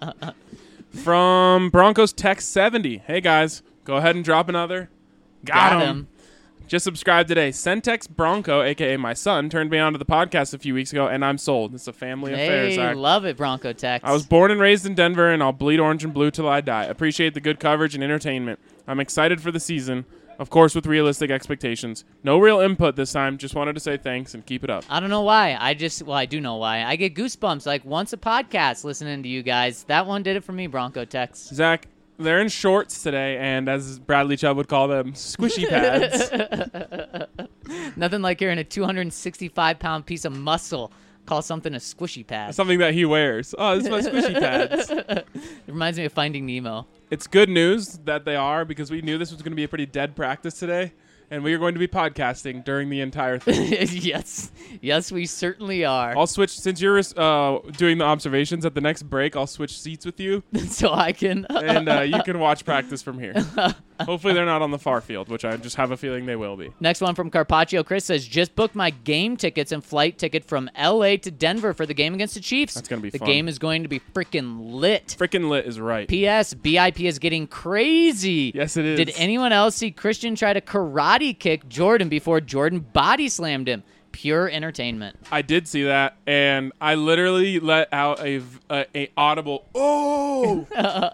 From Broncos Text 70. Hey, guys, go ahead and drop another. Got him. Just subscribe today. Centex Bronco, a.k.a. my son, turned me onto the podcast a few weeks ago, and I'm sold. It's a family affair, Zach. Hey, love it, Bronco Tex. I was born and raised in Denver, and I'll bleed orange and blue till I die. Appreciate the good coverage and entertainment. I'm excited for the season, of course, with realistic expectations. No real input this time. Just wanted to say thanks and keep it up. I don't know why. I do know why. I get goosebumps like once a podcast listening to you guys. That one did it for me, Bronco Tex. Zach, they're in shorts today, and as Bradley Chubb would call them, squishy pads. Nothing like hearing a 265-pound piece of muscle call something a squishy pad. Something that he wears. Oh, this is my squishy pads. It reminds me of Finding Nemo. It's good news that they are, because we knew this was going to be a pretty dead practice today, and we are going to be podcasting during the entire thing. Yes, we certainly are. I'll switch, since you're doing the observations at the next break, I'll switch seats with you. So I can. And you can watch practice from here. Hopefully they're not on the far field, which I just have a feeling they will be. Next one from Carpaccio. Chris says, just booked my game tickets and flight ticket from L.A. to Denver for the game against the Chiefs. That's going to be fun. The game is going to be freaking lit. Freaking lit is right. P.S. BIP is getting crazy. Yes, it is. Did anyone else see Christian try to karate kick Jordan before Jordan body slammed him? Pure entertainment. I did see that, and I literally let out a audible "oh"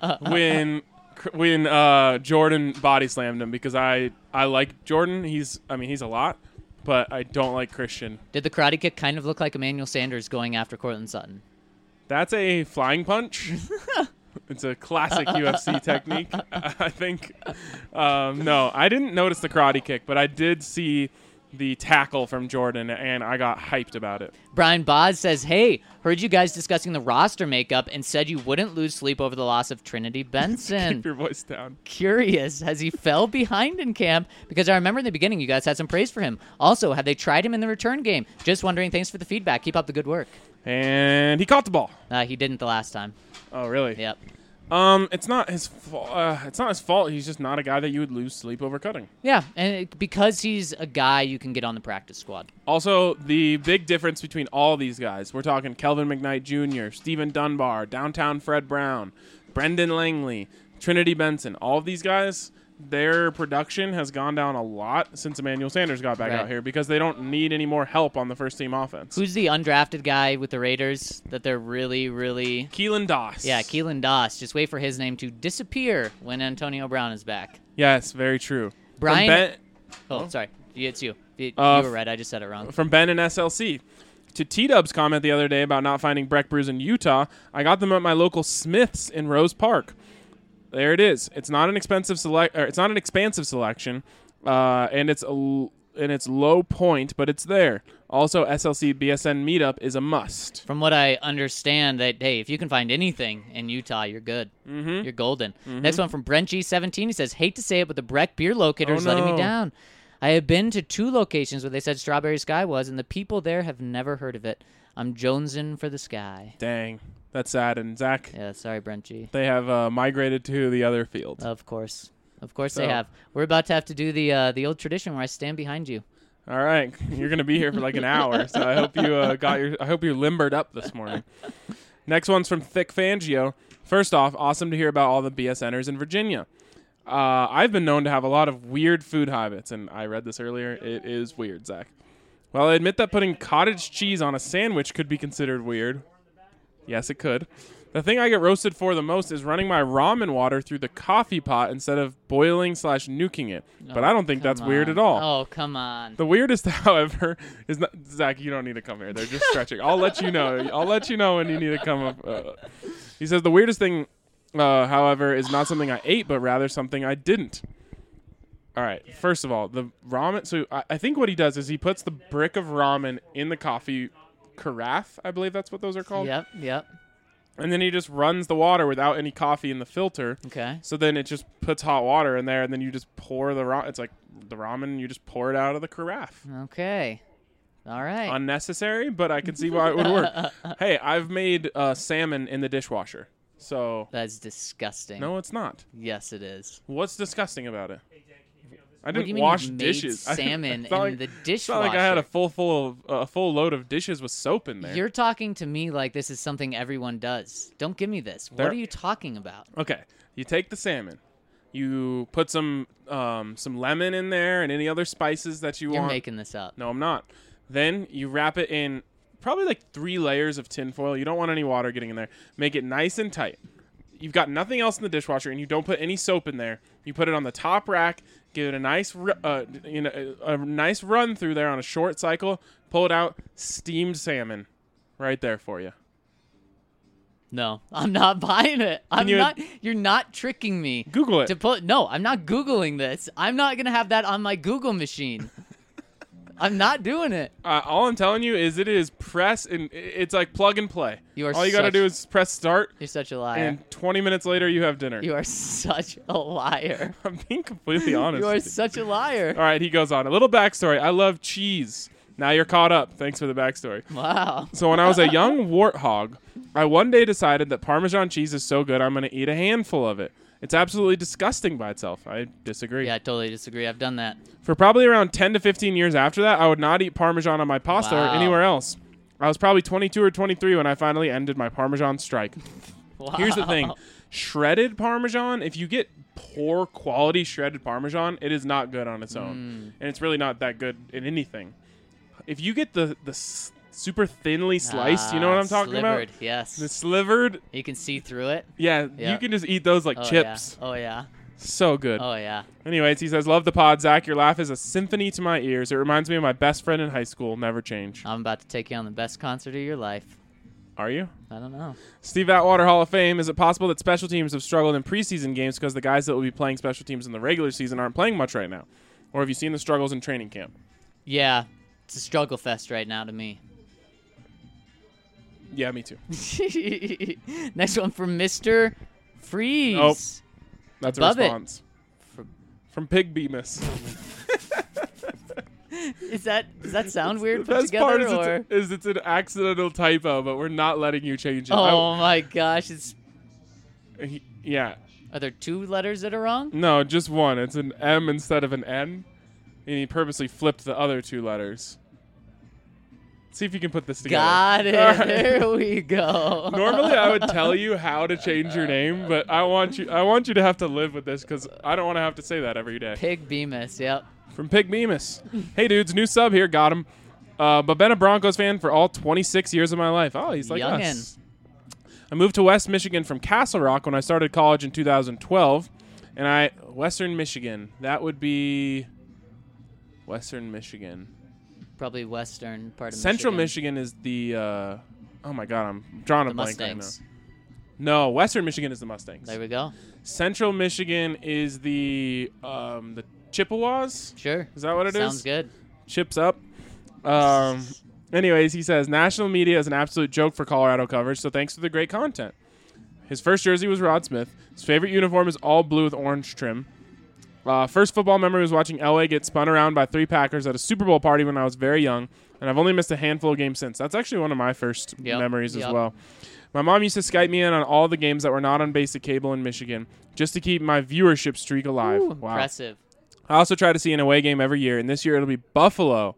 when Jordan body slammed him, because I like Jordan. He's a lot, but I don't like Christian. Did the karate kick kind of look like Emmanuel Sanders going after Cortland Sutton? That's a flying punch. It's a classic UFC technique, I think. No, I didn't notice the karate kick, but I did see the tackle from Jordan, and I got hyped about it. Brian Boz says, hey, heard you guys discussing the roster makeup and said you wouldn't lose sleep over the loss of Trinity Benson. Keep your voice down. Curious, has he fell behind in camp? Because I remember in the beginning you guys had some praise for him. Also, have they tried him in the return game? Just wondering. Thanks for the feedback. Keep up the good work. And he caught the ball. He didn't the last time. Oh, really? Yep. It's not his fault. It's not his fault. He's just not a guy that you would lose sleep over cutting. Yeah, and because he's a guy you can get on the practice squad. Also, the big difference between all these guys, we're talking Kelvin McKnight Jr., Stephen Dunbar, Downtown Fred Brown, Brendan Langley, Trinity Benson, all of these guys, their production has gone down a lot since Emmanuel Sanders got back out here because they don't need any more help on the first-team offense. Who's the undrafted guy with the Raiders that they're really, really... Keelan Doss. Yeah, Keelan Doss. Just wait for his name to disappear when Antonio Brown is back. Yes, very true. Brian... Sorry. It's you. You were right. I just said it wrong. From Ben and SLC. To T-Dub's comment the other day about not finding Breck brews in Utah, I got them at my local Smith's in Rose Park. There it is. It's not an expensive it's not an expansive selection, and it's low point, but it's there. Also, SLC BSN meetup is a must. From what I understand, that hey, if you can find anything in Utah, you're good. Mm-hmm. You're golden. Mm-hmm. Next one from Brent G17. He says, "Hate to say it, but the Breck beer locator is letting me down. I have been to 2 locations where they said Strawberry Sky was, and the people there have never heard of it. I'm jonesing for the sky." Dang. That's sad. And Zach? Yeah, sorry, Brent G. They have migrated to the other field. Of course. They have. We're about to have to do the old tradition where I stand behind you. All right. You're going to be here for like an hour, so I hope you I hope you're limbered up this morning. Next one's from Thick Fangio. First off, awesome to hear about all the BSNers in Virginia. I've been known to have a lot of weird food habits, and I read this earlier. It is weird, Zach. Well, I admit that putting cottage cheese on a sandwich could be considered weird. Yes, it could. The thing I get roasted for the most is running my ramen water through the coffee pot instead of boiling/nuking it. But I don't think that's weird at all. Oh, come on. The weirdest, however, is not... Zach, you don't need to come here. They're just stretching. I'll let you know. When you need to come up. He says the weirdest thing, however, is not something I ate, but rather something I didn't. All right. First of all, the ramen... So I think what he does is he puts the brick of ramen in the coffee carafe. I believe that's what those are called. Yep. And then he just runs the water without any coffee in the filter. Okay. So then it just puts hot water in there, and then you just pour the ramen. It's like the ramen, you just pour it out of the carafe. Okay. All right. Unnecessary, but I can see why it would work. Hey, I've made salmon in the dishwasher. So that's disgusting. No, it's not. Yes, it is. What's disgusting about it? I didn't what do you mean wash you dishes. Made salmon in the dishwasher. It's not like I had a full load of dishes with soap in there. You're talking to me like this is something everyone does. Don't give me this. What are you talking about? Okay, you take the salmon, you put some lemon in there and any other spices that you want. You're making this up. No, I'm not. Then you wrap it in probably like 3 layers of tin foil. You don't want any water getting in there. Make it nice and tight. You've got nothing else in the dishwasher, and you don't put any soap in there. You put it on the top rack. Give it a nice, a nice run through there on a short cycle. Pull it out. Steamed salmon, right there for you. No, I'm not buying it. You're not tricking me. Google it. No, I'm not Googling this. I'm not gonna have that on my Google machine. I'm not doing it. All I'm telling you is it is press, and it's like plug and play. All you got to do is press start. You're such a liar. And 20 minutes later, you have dinner. You are such a liar. I'm being completely honest. You are such a liar. All right, he goes on. A little backstory. I love cheese. Now you're caught up. Thanks for the backstory. Wow. So when I was a young warthog, I one day decided that Parmesan cheese is so good, I'm going to eat a handful of it. It's absolutely disgusting by itself. I disagree. Yeah, I totally disagree. I've done that. For probably around 10 to 15 years after that, I would not eat Parmesan on my pasta or anywhere else. I was probably 22 or 23 when I finally ended my Parmesan strike. Wow. Here's the thing. Shredded Parmesan, if you get poor quality shredded Parmesan, it is not good on its own. And it's really not that good in anything. If you get the super thinly sliced, you know what I'm talking about? Yes. The slivered. You can see through it. Yeah, you can just eat those like chips. Yeah. Oh, yeah. So good. Oh, yeah. Anyways, he says, love the pod, Zach. Your laugh is a symphony to my ears. It reminds me of my best friend in high school. Never change. I'm about to take you on the best concert of your life. Are you? I don't know. Steve Atwater, Hall of Fame. Is it possible that special teams have struggled in preseason games because the guys that will be playing special teams in the regular season aren't playing much right now? Or have you seen the struggles in training camp? Yeah, it's a struggle fest right now to me. Yeah, me too. Next one from Mr. Freeze. Oh. That's Above a it. response. From Pig Bemis. Does that sound weird The put best together? part Or? is it's an accidental typo, but we're not letting you change it. Oh my gosh! Yeah. Are there 2 letters that are wrong? No, just one. It's an M instead of an N, and he purposely flipped the other 2 letters. See if you can put this together. Got it. All right. There we go. Normally, I would tell you how to change your name, but I want you to have to live with this because I don't want to have to say that every day. Pig Bemis. Yep. From Pig Bemis. Hey, dudes, new sub here. Got him. But been a Broncos fan for all 26 years of my life. Oh, he's like Youngin'. us. I moved to West Michigan from Castle Rock when I started college in 2012. And Western Michigan. That would be Western Michigan. Probably western part of Central Michigan. Michigan is the, oh my God, I'm drawing a The blank Mustangs. right now. No, Western Michigan is the Mustangs. There we go. Central Michigan is the Chippewas. Sure. Is that what it is? Sounds good. Chips up. Anyways, he says, national media is an absolute joke for Colorado coverage, so thanks for the great content. His first jersey was Rod Smith. His favorite uniform is all blue with orange trim. First football memory was watching LA get spun around by 3 Packers at a Super Bowl party when I was very young, and I've only missed a handful of games since. That's actually one of my first memories as well. My mom used to Skype me in on all the games that were not on basic cable in Michigan just to keep my viewership streak alive. Ooh, Wow. impressive. I also try to see an away game every year, and this year it'll be Buffalo.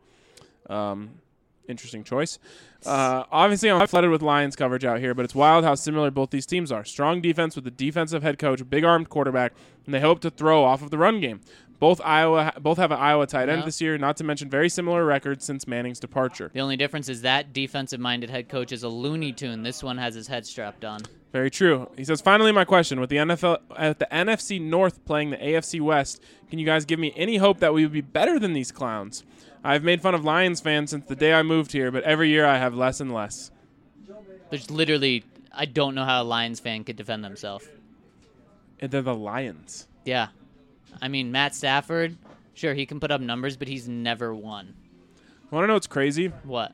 Interesting choice. Obviously, I'm flooded with Lions coverage out here, but it's wild how similar both these teams are. Strong defense with a defensive head coach, a big-armed quarterback, and they hope to throw off of the run game. Both have an Iowa tight end this year, not to mention very similar records since Manning's departure. The only difference is that defensive-minded head coach is a Looney Tune. This one has his head strapped on. Very true. He says, finally, my question. With the NFC North playing the AFC West, can you guys give me any hope that we would be better than these clowns? I've made fun of Lions fans since the day I moved here, but every year I have less and less. There's literally, I don't know how a Lions fan could defend themselves. And they're the Lions. Yeah. I mean, Matt Stafford, sure, he can put up numbers, but he's never won. Want to know what's crazy? What?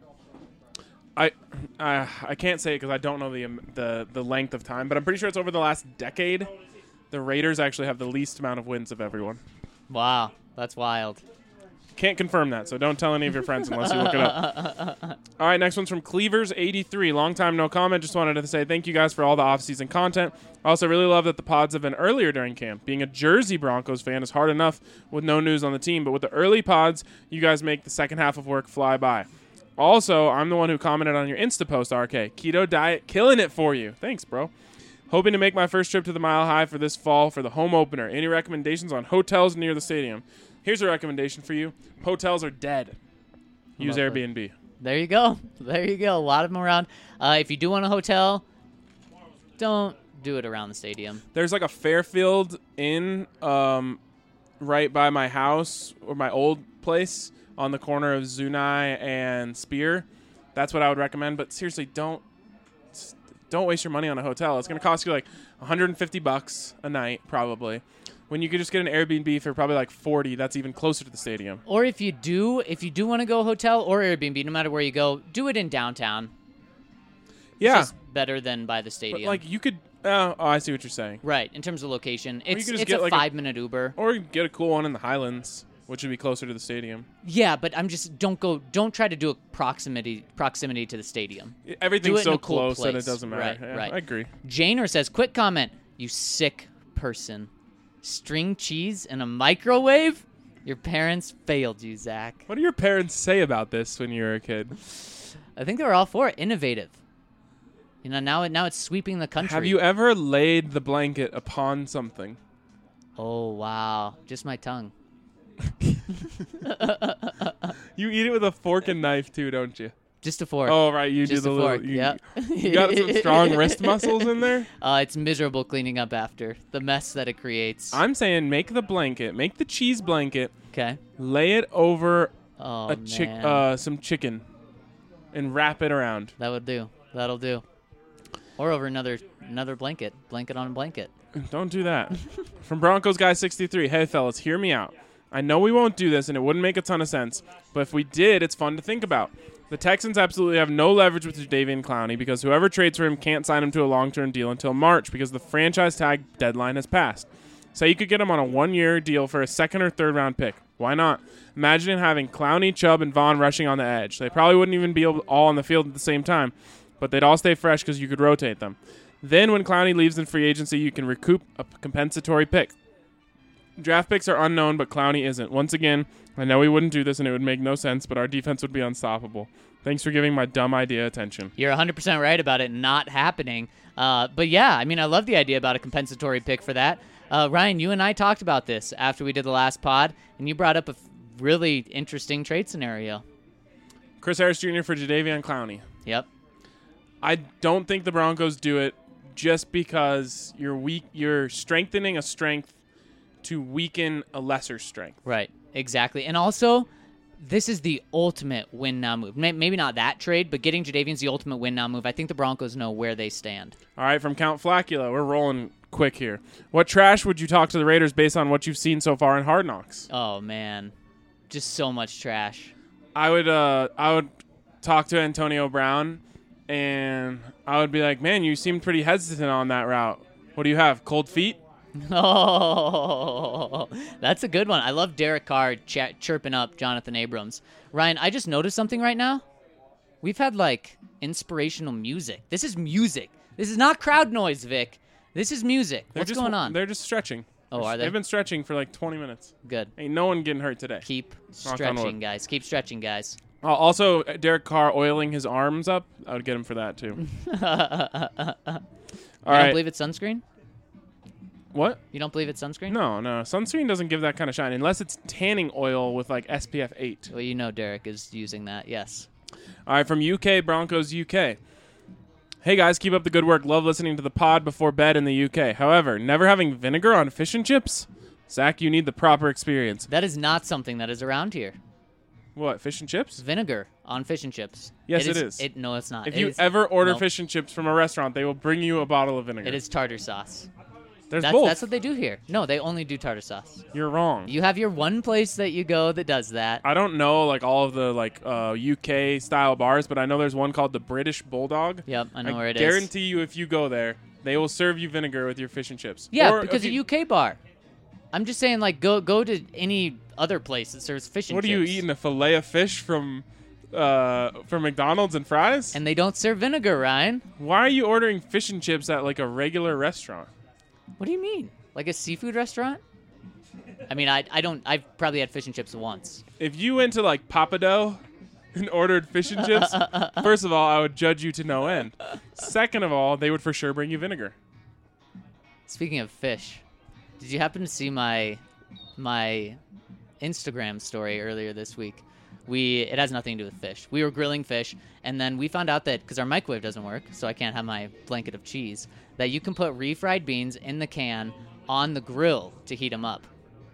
I can't say it because I don't know the length of time, but I'm pretty sure it's over the last decade. The Raiders actually have the least amount of wins of everyone. Wow, that's wild. Can't confirm that, so don't tell any of your friends unless you look it up. All right, next one's from Cleavers83. Long time no comment. Just wanted to say thank you guys for all the off-season content. I also really love that the pods have been earlier during camp. Being a Jersey Broncos fan is hard enough with no news on the team, but with the early pods, you guys make the second half of work fly by. Also, I'm the one who commented on your Insta post, RK. Keto diet, killing it for you. Thanks, bro. Hoping to make my first trip to the Mile High for this fall for the home opener. Any recommendations on hotels near the stadium? Here's a recommendation for you. Hotels are dead. Use Lovely. Airbnb. There you go. There you go. A lot of them around. If you do want a hotel, don't do it around the stadium. There's like a Fairfield Inn right by my house or my old place on the corner of Zunai and Spear. That's what I would recommend. But seriously, don't waste your money on a hotel. It's going to cost you like $150 a night probably. When you could just get an Airbnb for probably like $40, that's even closer to the stadium. Or if you do want to go hotel or Airbnb, no matter where you go, do it in downtown. Yeah. It's just better than by the stadium. But like you could I see what you're saying. Right, in terms of location. It's could just a get like 5-minute Uber. Or you get a cool one in the Highlands, which would be closer to the stadium. Yeah, but don't try to do a proximity to the stadium. Everything's so in a cool close that it place. doesn't matter. Right, Yeah, right. I agree. Janer says, quick comment, you sick person. String cheese in a microwave? Your parents failed you, Zach. What do your parents say about this when you were a kid? I think they were all for it. Innovative. You know, now it's sweeping the country. Have you ever laid the blanket upon something? Oh, wow. Just my tongue. You eat it with a fork and knife too, don't you? Just a fork. Oh, right. You Just do a the fork. little. Yep. You got some strong wrist muscles in there. It's miserable cleaning up after the mess that it creates. I'm saying make the blanket, make the cheese blanket, Okay. lay it over Oh, a some chicken, and wrap it around. That would do. That'll do. Or over another blanket. Blanket on a blanket. Don't do that. From Broncos Guy 63. Hey, fellas, hear me out. I know we won't do this, and it wouldn't make a ton of sense, but if we did, it's fun to think about. The Texans absolutely have no leverage with Jadeveon Clowney because whoever trades for him can't sign him to a long-term deal until March because the franchise tag deadline has passed. Say you could get him on a 1-year deal for a second or third round pick. Why not? Imagine having Clowney, Chubb, and Vaughn rushing on the edge. They probably wouldn't even be all on the field at the same time, but they'd all stay fresh because you could rotate them. Then when Clowney leaves in free agency, you can recoup a compensatory pick. Draft picks are unknown, but Clowney isn't. Once again, I know we wouldn't do this and it would make no sense, but our defense would be unstoppable. Thanks for giving my dumb idea attention. You're 100% right about it not happening. But yeah, I mean, I love the idea about a compensatory pick for that. Ryan, you and I talked about this after we did the last pod, and you brought up a really interesting trade scenario. Chris Harris Jr. for Jadeveon Clowney. Yep. I don't think the Broncos do it just because you're strengthening a strength to weaken a lesser strength. Right, exactly. And also, this is the ultimate win-now move. Maybe not that trade, but getting Jadeveon's the ultimate win-now move. I think the Broncos know where they stand. All right, from Count Flacula, we're rolling quick here. What trash would you talk to the Raiders based on what you've seen so far in Hard Knocks? Oh, man. Just so much trash. I would talk to Antonio Brown, and I would be like, man, you seemed pretty hesitant on that route. What do you have, cold feet? Oh, that's a good one. I love Derek Carr chirping up Jonathan Abrams. Ryan, I just noticed something right now. We've had, inspirational music. This is music. This is not crowd noise, Vic. This is music. What's going on? They're just stretching. Oh, are they? They've been stretching for 20 minutes. Good. Ain't no one getting hurt today. Keep Knock on stretching, wood. guys. Keep stretching, guys. Also, Derek Carr oiling his arms up. I would get him for that, too. All You right. don't believe it's sunscreen? What? You don't believe it's sunscreen? No. Sunscreen doesn't give that kind of shine unless it's tanning oil with SPF 8. Well, you know Derek is using that, yes. All right, from UK, Broncos UK. Hey guys, keep up the good work. Love listening to the pod before bed in the UK. However, never having vinegar on fish and chips? Zach, you need the proper experience. That is not something that is around here. What, fish and chips? Vinegar on fish and chips. Yes, it is. No, it's not. If It you is- ever order nope. fish and chips from a restaurant, they will bring you a bottle of vinegar. It is tartar sauce. There's both. That's what they do here. No, they only do tartar sauce. You're wrong. You have your one place that you go that does that. I don't know all of the UK style bars, but I know there's one called the British Bulldog. Yep, I know where it is. Guarantee you, if you go there, they will serve you vinegar with your fish and chips. Yeah, Or because if a you- UK bar. I'm just saying, go to any other place that serves fish and What are chips. you eating? A fillet of fish from McDonald's and fries? And they don't serve vinegar, Ryan. Why are you ordering fish and chips at a regular restaurant? What do you mean? Like a seafood restaurant? I mean, I don't. I've probably had fish and chips once. If you went to Papado and ordered fish and chips, first of all, I would judge you to no end. Second of all, they would for sure bring you vinegar. Speaking of fish, did you happen to see my Instagram story earlier this week? It has nothing to do with fish. We were grilling fish, and then we found out that because our microwave doesn't work, so I can't have my blanket of cheese, that you can put refried beans in the can on the grill to heat them up.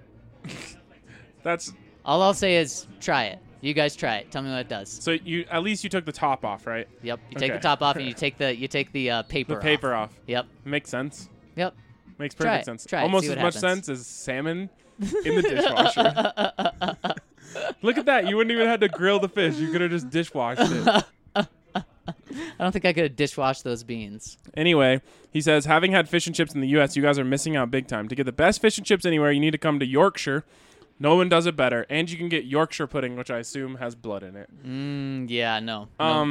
That's All I'll say is try it. You guys try it. Tell me what it does. so you at least you took the top off, right? Yep. You take Okay. the top off and you take the paper The off. paper off. Yep. Makes sense. Yep. Makes Try perfect it. sense. Try it. Almost See as what much happens. sense as salmon in the dishwasher. Look at that. You wouldn't even have to grill the fish. You could have just dishwashed it. I don't think I could have dishwashed those beans. Anyway, he says, having had fish and chips in the U.S., you guys are missing out big time. To get the best fish and chips anywhere, you need to come to Yorkshire. No one does it better. And you can get Yorkshire pudding, which I assume has blood in it. Yeah, no.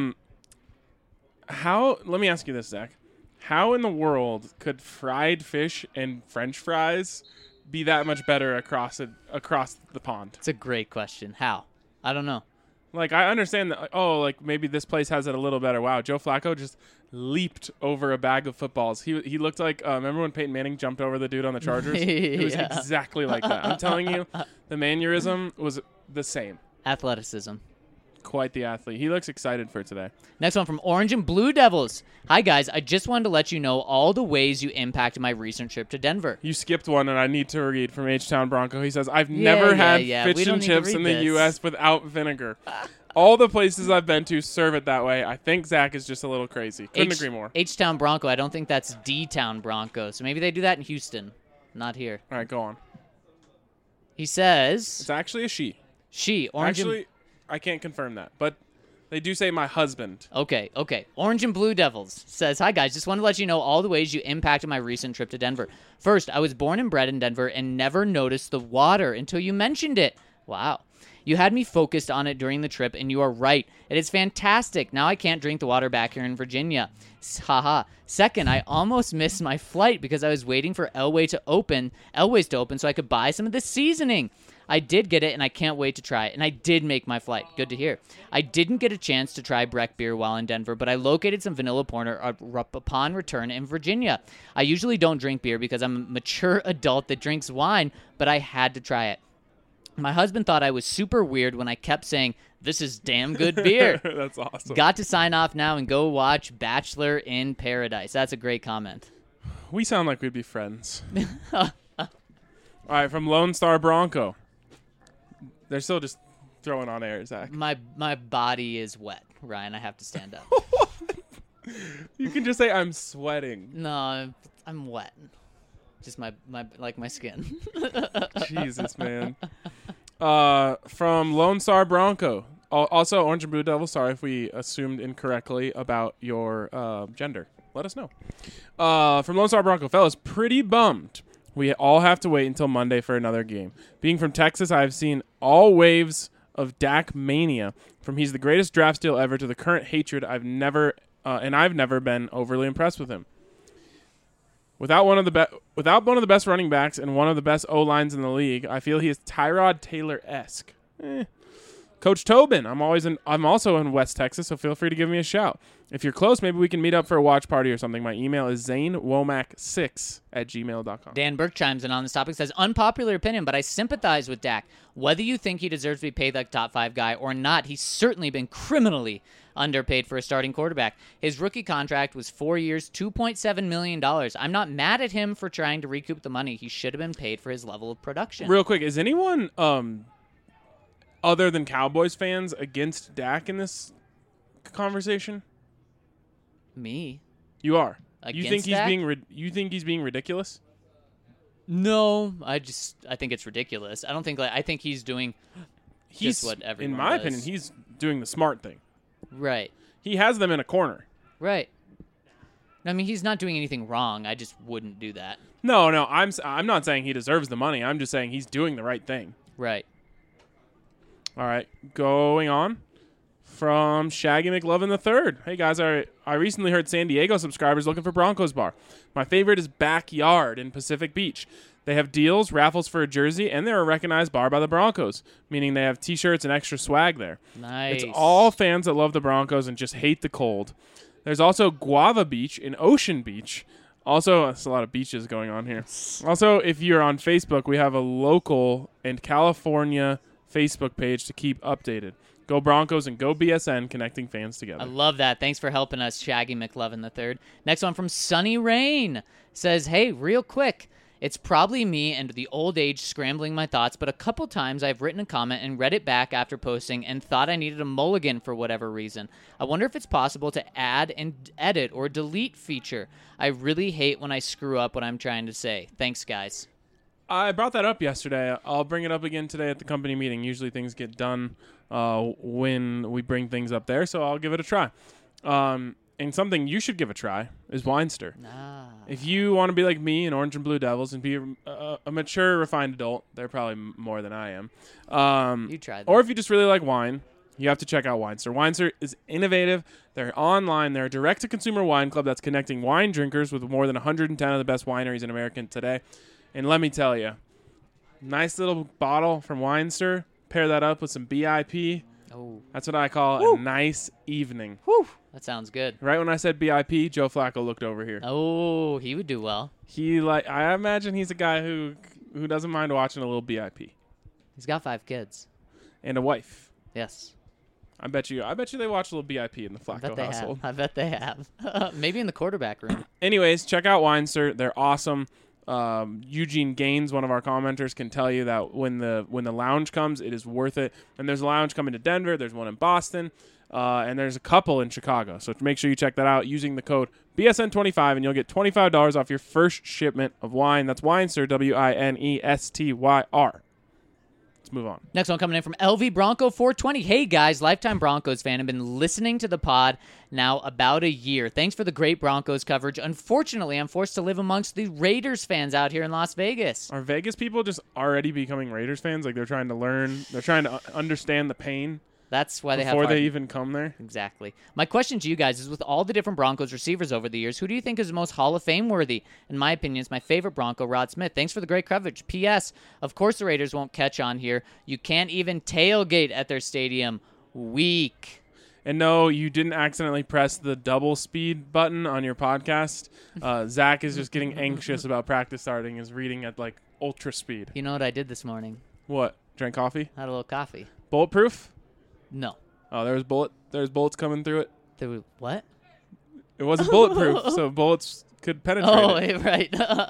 Let me ask you this, Zach. How in the world could fried fish and French fries be that much better across the pond? It's a great question. How? I don't know. I understand that, maybe this place has it a little better. Wow, Joe Flacco just leaped over a bag of footballs. He looked like, remember when Peyton Manning jumped over the dude on the Chargers? It was Yeah. exactly like that. I'm telling you, the mannerism was the same. Athleticism. Quite the athlete. He looks excited for today. Next one from Orange and Blue Devils. Hi, guys. I just wanted to let you know all the ways you impacted my recent trip to Denver. You skipped one, and I need to read from H-Town Bronco. He says, I've never had We fish don't and need to chips read in the this. U.S. without vinegar. All the places I've been to serve it that way. I think Zach is just a little crazy. Couldn't agree more. H-Town Bronco. I don't think that's D-Town Bronco. So maybe they do that in Houston. Not here. All right, go on. He says It's actually a she. she. Orange and- Actually, I can't confirm that, but they do say my husband. Okay. Orange and Blue Devils says, "Hi guys, just wanted to let you know all the ways you impacted my recent trip to Denver. First, I was born and bred in Denver and never noticed the water until you mentioned it. Wow. You had me focused on it during the trip, and you are right. It is fantastic. Now I can't drink the water back here in Virginia. Haha. Second, I almost missed my flight because I was waiting for Elway's to open so I could buy some of the seasoning. I did get it, and I can't wait to try it. And I did make my flight. Good to hear. I didn't get a chance to try Breck beer while in Denver, but I located some vanilla porter upon return in Virginia. I usually don't drink beer because I'm a mature adult that drinks wine, but I had to try it. My husband thought I was super weird when I kept saying, this is damn good beer. That's awesome. Got to sign off now and go watch Bachelor in Paradise. That's a great comment. We sound like we'd be friends. All right, from Lone Star Bronco. They're still just throwing on air, Zach. My body is wet, Ryan. I have to stand up. You can just say I'm sweating. No, I'm wet. Just my skin. Jesus, man. From Lone Star Bronco. Also, Orange and Blue Devil, sorry if we assumed incorrectly about your gender. Let us know. From Lone Star Bronco. Fellas, pretty bummed. We all have to wait until Monday for another game. Being from Texas, I have seen all waves of Dak mania, from he's the greatest draft steal ever to the current hatred. I've never been overly impressed with him. Without one of the best running backs and one of the best O-lines in the league, I feel he is Tyrod Taylor-esque. Coach Tobin, I'm also in West Texas, so feel free to give me a shout. If you're close, maybe we can meet up for a watch party or something. My email is zanewomack6@gmail.com. Dan Burke chimes in on this topic, says, unpopular opinion, but I sympathize with Dak. Whether you think he deserves to be paid like top 5 guy or not, he's certainly been criminally underpaid for a starting quarterback. His rookie contract was 4 years, $2.7 million. I'm not mad at him for trying to recoup the money. He should have been paid for his level of production. Real quick, is anyone other than Cowboys fans against Dak in this conversation? Me? You are. Against you think he's Dak? you think he's being ridiculous? No, I think it's ridiculous. I think he's doing just what everyone in my does. opinion, he's doing the smart thing. Right. He has them in a corner. Right. I mean, he's not doing anything wrong. I just wouldn't do that. No, I'm not saying he deserves the money. I'm just saying he's doing the right thing. Right. All right, going on from Shaggy McLovin III. Hey guys, I recently heard San Diego subscribers looking for Broncos bar. My favorite is Backyard in Pacific Beach. They have deals, raffles for a jersey, and they're a recognized bar by the Broncos, meaning they have T-shirts and extra swag there. Nice. It's all fans that love the Broncos and just hate the cold. There's also Guava Beach in Ocean Beach. Also, there's a lot of beaches going on here. Also, if you're on Facebook, we have a local and California Facebook page to keep updated. Go Broncos and go BSN, connecting fans together. I love that. Thanks for helping us, Shaggy McLovin III. Next one from Sunny Rain. Says, hey, real quick. It's probably me and the old age scrambling my thoughts, but a couple times I've written a comment and read it back after posting and thought I needed a mulligan for whatever reason. I wonder if it's possible to add and edit or delete feature. I really hate when I screw up what I'm trying to say. Thanks, guys. I brought that up yesterday. I'll bring it up again today at the company meeting. Usually things get done when we bring things up there, so I'll give it a try. And something you should give a try is Winester. If you want to be like me and Orange and Blue Devils and be a mature, refined adult, they're probably more than I am. You try that. Or if you just really like wine, you have to check out Winester. Winester is innovative. They're online. They're a direct-to-consumer wine club that's connecting wine drinkers with more than 110 of the best wineries in America today. And let me tell you, nice little bottle from Winester. Pair that up with some BIP. Oh, That's what I call a nice evening. that sounds good. Right when I said BIP, Joe Flacco looked over here. Oh, he would do well. I imagine he's a guy who doesn't mind watching a little BIP. He's got 5 kids. And a wife. Yes. I bet you they watch a little BIP in the Flacco household. I bet they have. Maybe in the quarterback room. Anyways, check out Winester. They're awesome. Eugene Gaines, one of our commenters, can tell you that when the lounge comes, it is worth it. And there's a lounge coming to Denver. There's one in Boston. And there's a couple in Chicago. So make sure you check that out using the code BSN25, and you'll get $25 off your first shipment of wine. That's Winester, Winestyr. Let's move on. Next one coming in from LV Bronco 420. Hey guys, lifetime Broncos fan. I've been listening to the pod now about a year. Thanks for the great Broncos coverage. Unfortunately, I'm forced to live amongst the Raiders fans out here in Las Vegas. Are Vegas people just already becoming Raiders fans? Like they're trying to learn, they're trying to understand the pain That's why they have before hard- they even come there? Exactly. My question to you guys is, with all the different Broncos receivers over the years, who do you think is the most Hall of Fame worthy? In my opinion, it's my favorite Bronco, Rod Smith. Thanks for the great coverage. P.S. Of course the Raiders won't catch on here. You can't even tailgate at their stadium. Weak. And no, you didn't accidentally press the double speed button on your podcast. Zach is just getting anxious about practice starting. Is reading at like ultra speed. You know what I did this morning? What? Drank coffee? Had a little coffee. Bulletproof? No. Oh, there's bullets coming through it. There was, what? It wasn't bulletproof, so bullets could penetrate Oh, it. right.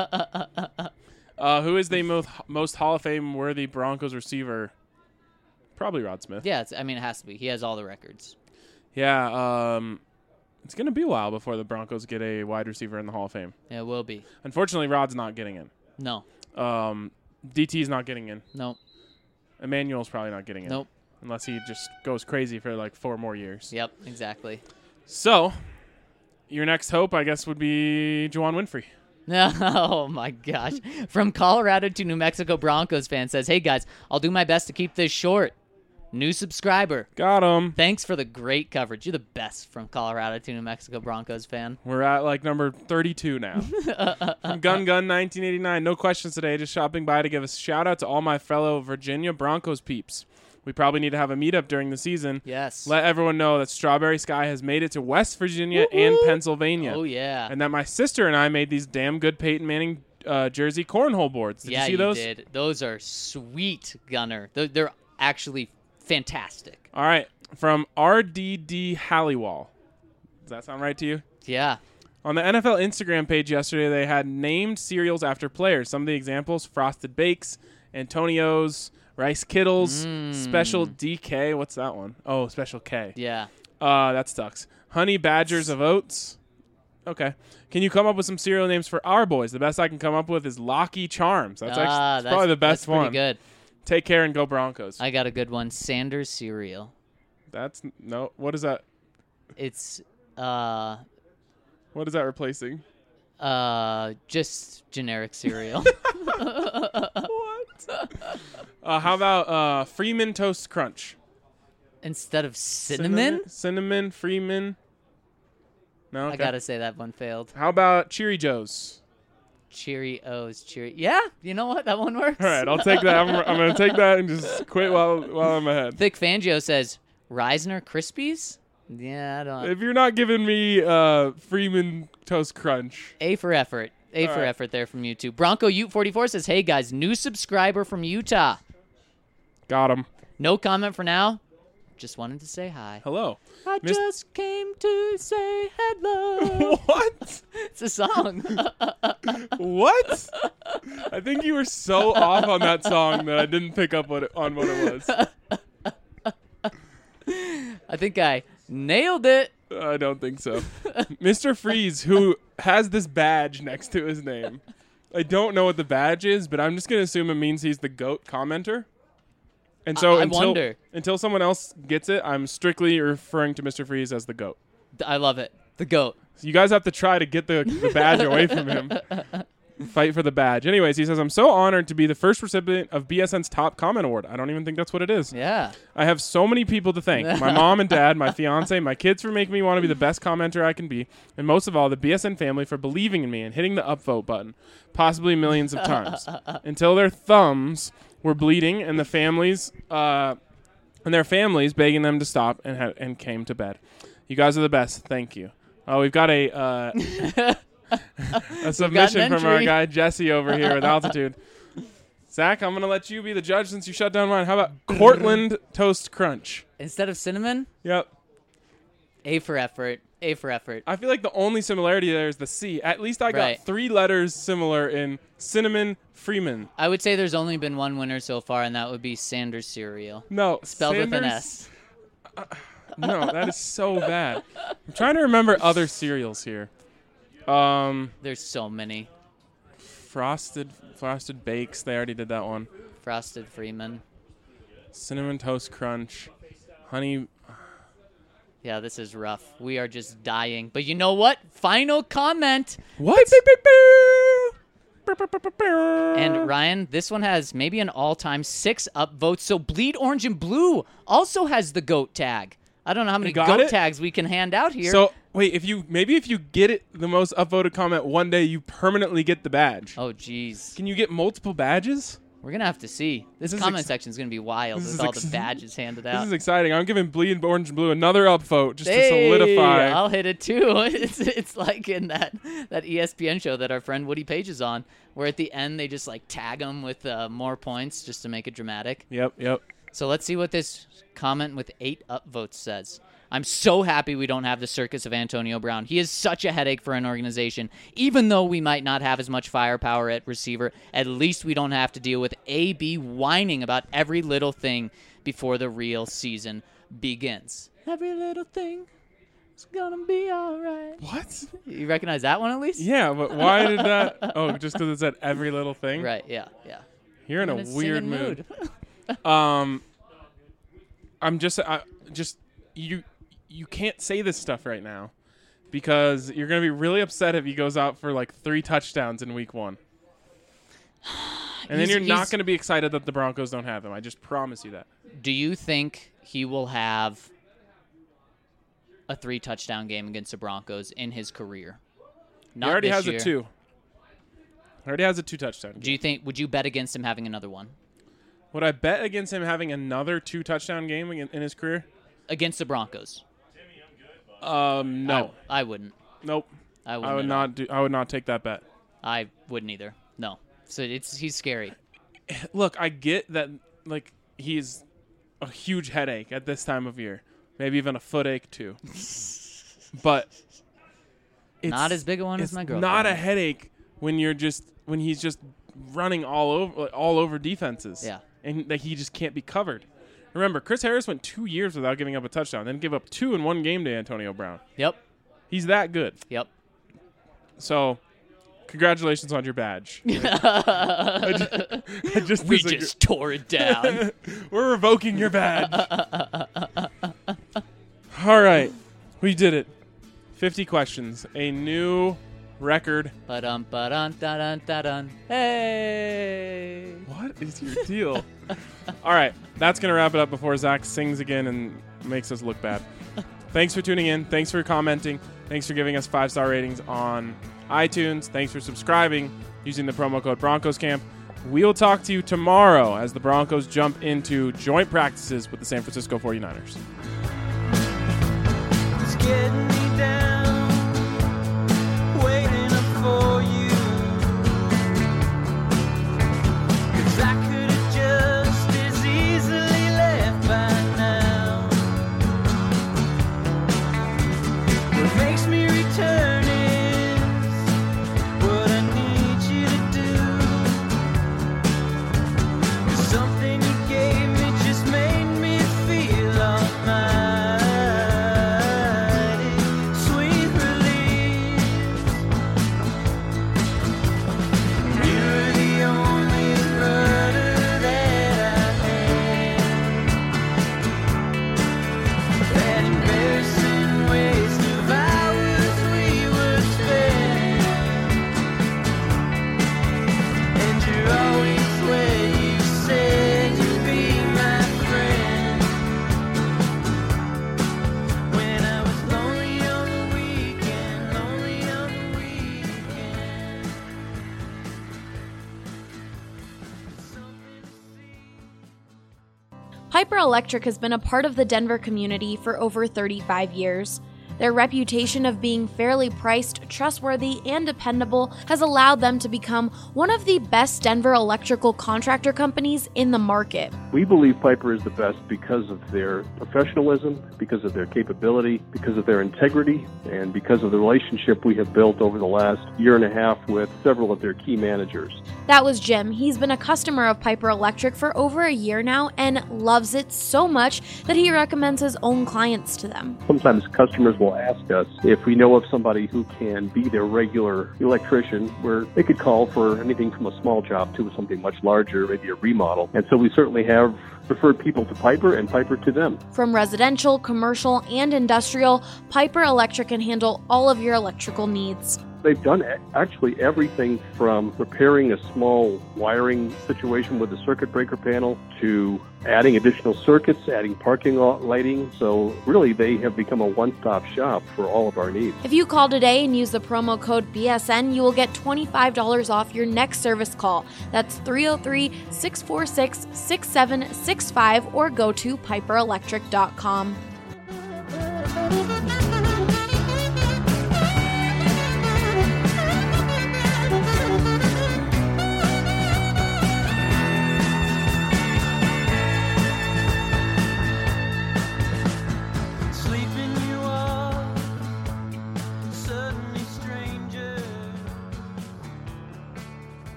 Who is the most Hall of Fame worthy Broncos receiver? Probably Rod Smith. Yeah, it has to be. He has all the records. Yeah, it's going to be a while before the Broncos get a wide receiver in the Hall of Fame. Yeah, it will be. Unfortunately, Rod's not getting in. No. DT's not getting in. Nope. Emmanuel's probably not getting in. Nope. Unless he just goes crazy for like 4 more years. Yep, exactly. So, your next hope, I guess, would be Juwan Winfrey. Oh, my gosh. From Colorado to New Mexico Broncos fan says, hey, guys, I'll do my best to keep this short. New subscriber. Got him. Thanks for the great coverage. You're the best from Colorado to New Mexico Broncos fan. We're at like number 32 now. From Gun 1989. No questions today. Just shopping by to give a shout out to all my fellow Virginia Broncos peeps. We probably need to have a meetup during the season. Yes. Let everyone know that Strawberry Sky has made it to West Virginia and Pennsylvania. Oh, yeah. And that my sister and I made these damn good Peyton Manning jersey cornhole boards. Did you see those? Yeah, you did. Those are sweet, Gunner. They're actually fantastic. All right. From RDD Halliwall. Does that sound right to you? Yeah. On the NFL Instagram page yesterday, they had named cereals after players. Some of the examples: Frosted Bakes, Antonio's, Rice Kittles, Special DK. What's that one? Oh, Special K. Yeah. That sucks. Honey Badgers of Oats. Okay. Can you come up with some cereal names for our boys? The best I can come up with is Lucky Charms. That's probably the best that's one. Pretty good. Take care and go Broncos. I got a good one. Sanders cereal. That's no. What is that? It's What is that replacing? just generic cereal. What? How about Freeman Toast Crunch? Instead of cinnamon? Cinnamon Freeman. No. Okay. I gotta say that one failed. How about Cheery Joe's? Cheerios. Yeah, you know what? That one works. All right, I'll take that. I'm going to take that and just quit while I'm ahead. Thick Fangio says, Reisner Krispies? Yeah, I don't. If you're not giving me Freeman Toast Crunch. A for effort. A for effort there from YouTube. Bronco Ute 44 says, hey guys, new subscriber from Utah. Got him. No comment for now. Just wanted to say hi. Hello. I just came to say hello. What? It's a song. What? I think you were so off on that song that I didn't pick up on what it was. I think I nailed it. I don't think so. Mr. Freeze, who has this badge next to his name. I don't know what the badge is, but I'm just going to assume it means he's the GOAT commenter. And so I wonder. Until someone else gets it, I'm strictly referring to Mr. Freeze as the GOAT. I love it. The GOAT. So you guys have to try to get the badge away from him. Fight for the badge. Anyways, he says, I'm so honored to be the first recipient of BSN's Top Comment Award. I don't even think that's what it is. Yeah. I have so many people to thank. My mom and dad, my fiance, my kids for making me want to be the best commenter I can be, and most of all, the BSN family for believing in me and hitting the upvote button, possibly millions of times, until their thumbs were bleeding and their families begging them to stop and came to bed. You guys are the best. Thank you. Oh, we've got a submission from our guy Jesse over here with Altitude. Zach, I'm going to let you be the judge since you shut down mine. How about Cortland Toast Crunch? Instead of cinnamon, Yep. A for effort. A for effort. I feel like the only similarity there is the C. At least I got Right. 3 letters similar in Cinnamon Freeman. I would say there's only been one winner so far, and that would be Sanders cereal. No. Spelled with an Sanders- S. No, that is so bad. I'm trying to remember other cereals here. There's so many. Frosted Bakes. They already did that one. Frosted Freeman. Cinnamon Toast Crunch, honey. Yeah, this is rough. We are just dying. But you know what? Final comment. What? And Ryan, this one has maybe an all-time 6 upvotes. So Bleed Orange and Blue also has the GOAT tag. I don't know how many GOAT tags we can hand out here. So wait, if you get it the most upvoted comment one day, you permanently get the badge. Oh, jeez. Can you get multiple badges? We're going to have to see. This comment section is going to be wild with all the badges handed out. This is exciting. I'm giving Bleed Orange and Blue another upvote just to solidify. I'll hit it too. It's like in that ESPN show that our friend Woody Page is on, where at the end they just like tag him with more points just to make it dramatic. Yep. So let's see what this comment with 8 upvotes says. I'm so happy we don't have the circus of Antonio Brown. He is such a headache for an organization. Even though we might not have as much firepower at receiver, at least we don't have to deal with AB whining about every little thing before the real season begins. Every little thing is gonna be all right. What? You recognize that one at least? Yeah, but why did that? Oh, just because it said every little thing? Right, yeah. You're in a weird mood. You can't say this stuff right now because you're going to be really upset if he goes out for like 3 touchdowns in week 1. And then you're not going to be excited that the Broncos don't have him. I just promise you that. Do you think he will have a 3-touchdown game against the Broncos in his career? He already has a 2. He already has a 2-touchdown game. Do you think? Would you bet against him having another one? Would I bet against him having another 2-touchdown game in his career? Against the Broncos? No. I wouldn't. Nope. I would not I would not take that bet. I wouldn't either. No. So he's scary. Look, I get that like he's a huge headache at this time of year. Maybe even a footache too. But it's not as big a one as my girlfriend. Not a headache when he's just running all over defenses. Yeah. And he just can't be covered. Remember, Chris Harris went 2 years without giving up a touchdown, then give up 2 in one game to Antonio Brown. Yep. He's that good. Yep. So, congratulations on your badge. We just tore it down. We're revoking your badge. All right. We did it. 50 questions. A new record. Ba-dum, ba-dun, da-dun, da-dun. Hey. What is your deal? All right. That's going to wrap it up before Zach sings again and makes us look bad. Thanks for tuning in. Thanks for commenting. Thanks for giving us 5-star ratings on iTunes. Thanks for subscribing using the promo code BroncosCamp. We'll talk to you tomorrow as the Broncos jump into joint practices with the San Francisco 49ers. It's getting me down, waiting up for you. 'Cause I could have just as easily left by now. What makes me return is what I need you to do. 'Cause something you gave me just made me feel almighty. Sweet relief. You're the only rudder that I had. That embarrassing waste of hours we would spend. And you're always where you said you'd be my friend. When I was lonely on the weekend, lonely on the weekend. Something to see. Piper Electric has been a part of the Denver community for over 35 years. Their reputation of being fairly priced, trustworthy, and dependable has allowed them to become one of the best Denver electrical contractor companies in the market. We believe Piper is the best because of their professionalism, because of their capability, because of their integrity, and because of the relationship we have built over the last year and a half with several of their key managers. That was Jim. He's been a customer of Piper Electric for over a year now and loves it so much that he recommends his own clients to them. Sometimes customers will ask us if we know of somebody who can be their regular electrician, where they could call for anything from a small job to something much larger, maybe a remodel. And so we certainly have have referred people to Piper and Piper to them. From residential, commercial, and industrial, Piper Electric can handle all of your electrical needs. They've done actually everything from repairing a small wiring situation with the circuit breaker panel to adding additional circuits, adding parking lot lighting. So really, they have become a one-stop shop for all of our needs. If you call today and use the promo code BSN, you will get $25 off your next service call. That's 303-646-6765 or go to piperelectric.com.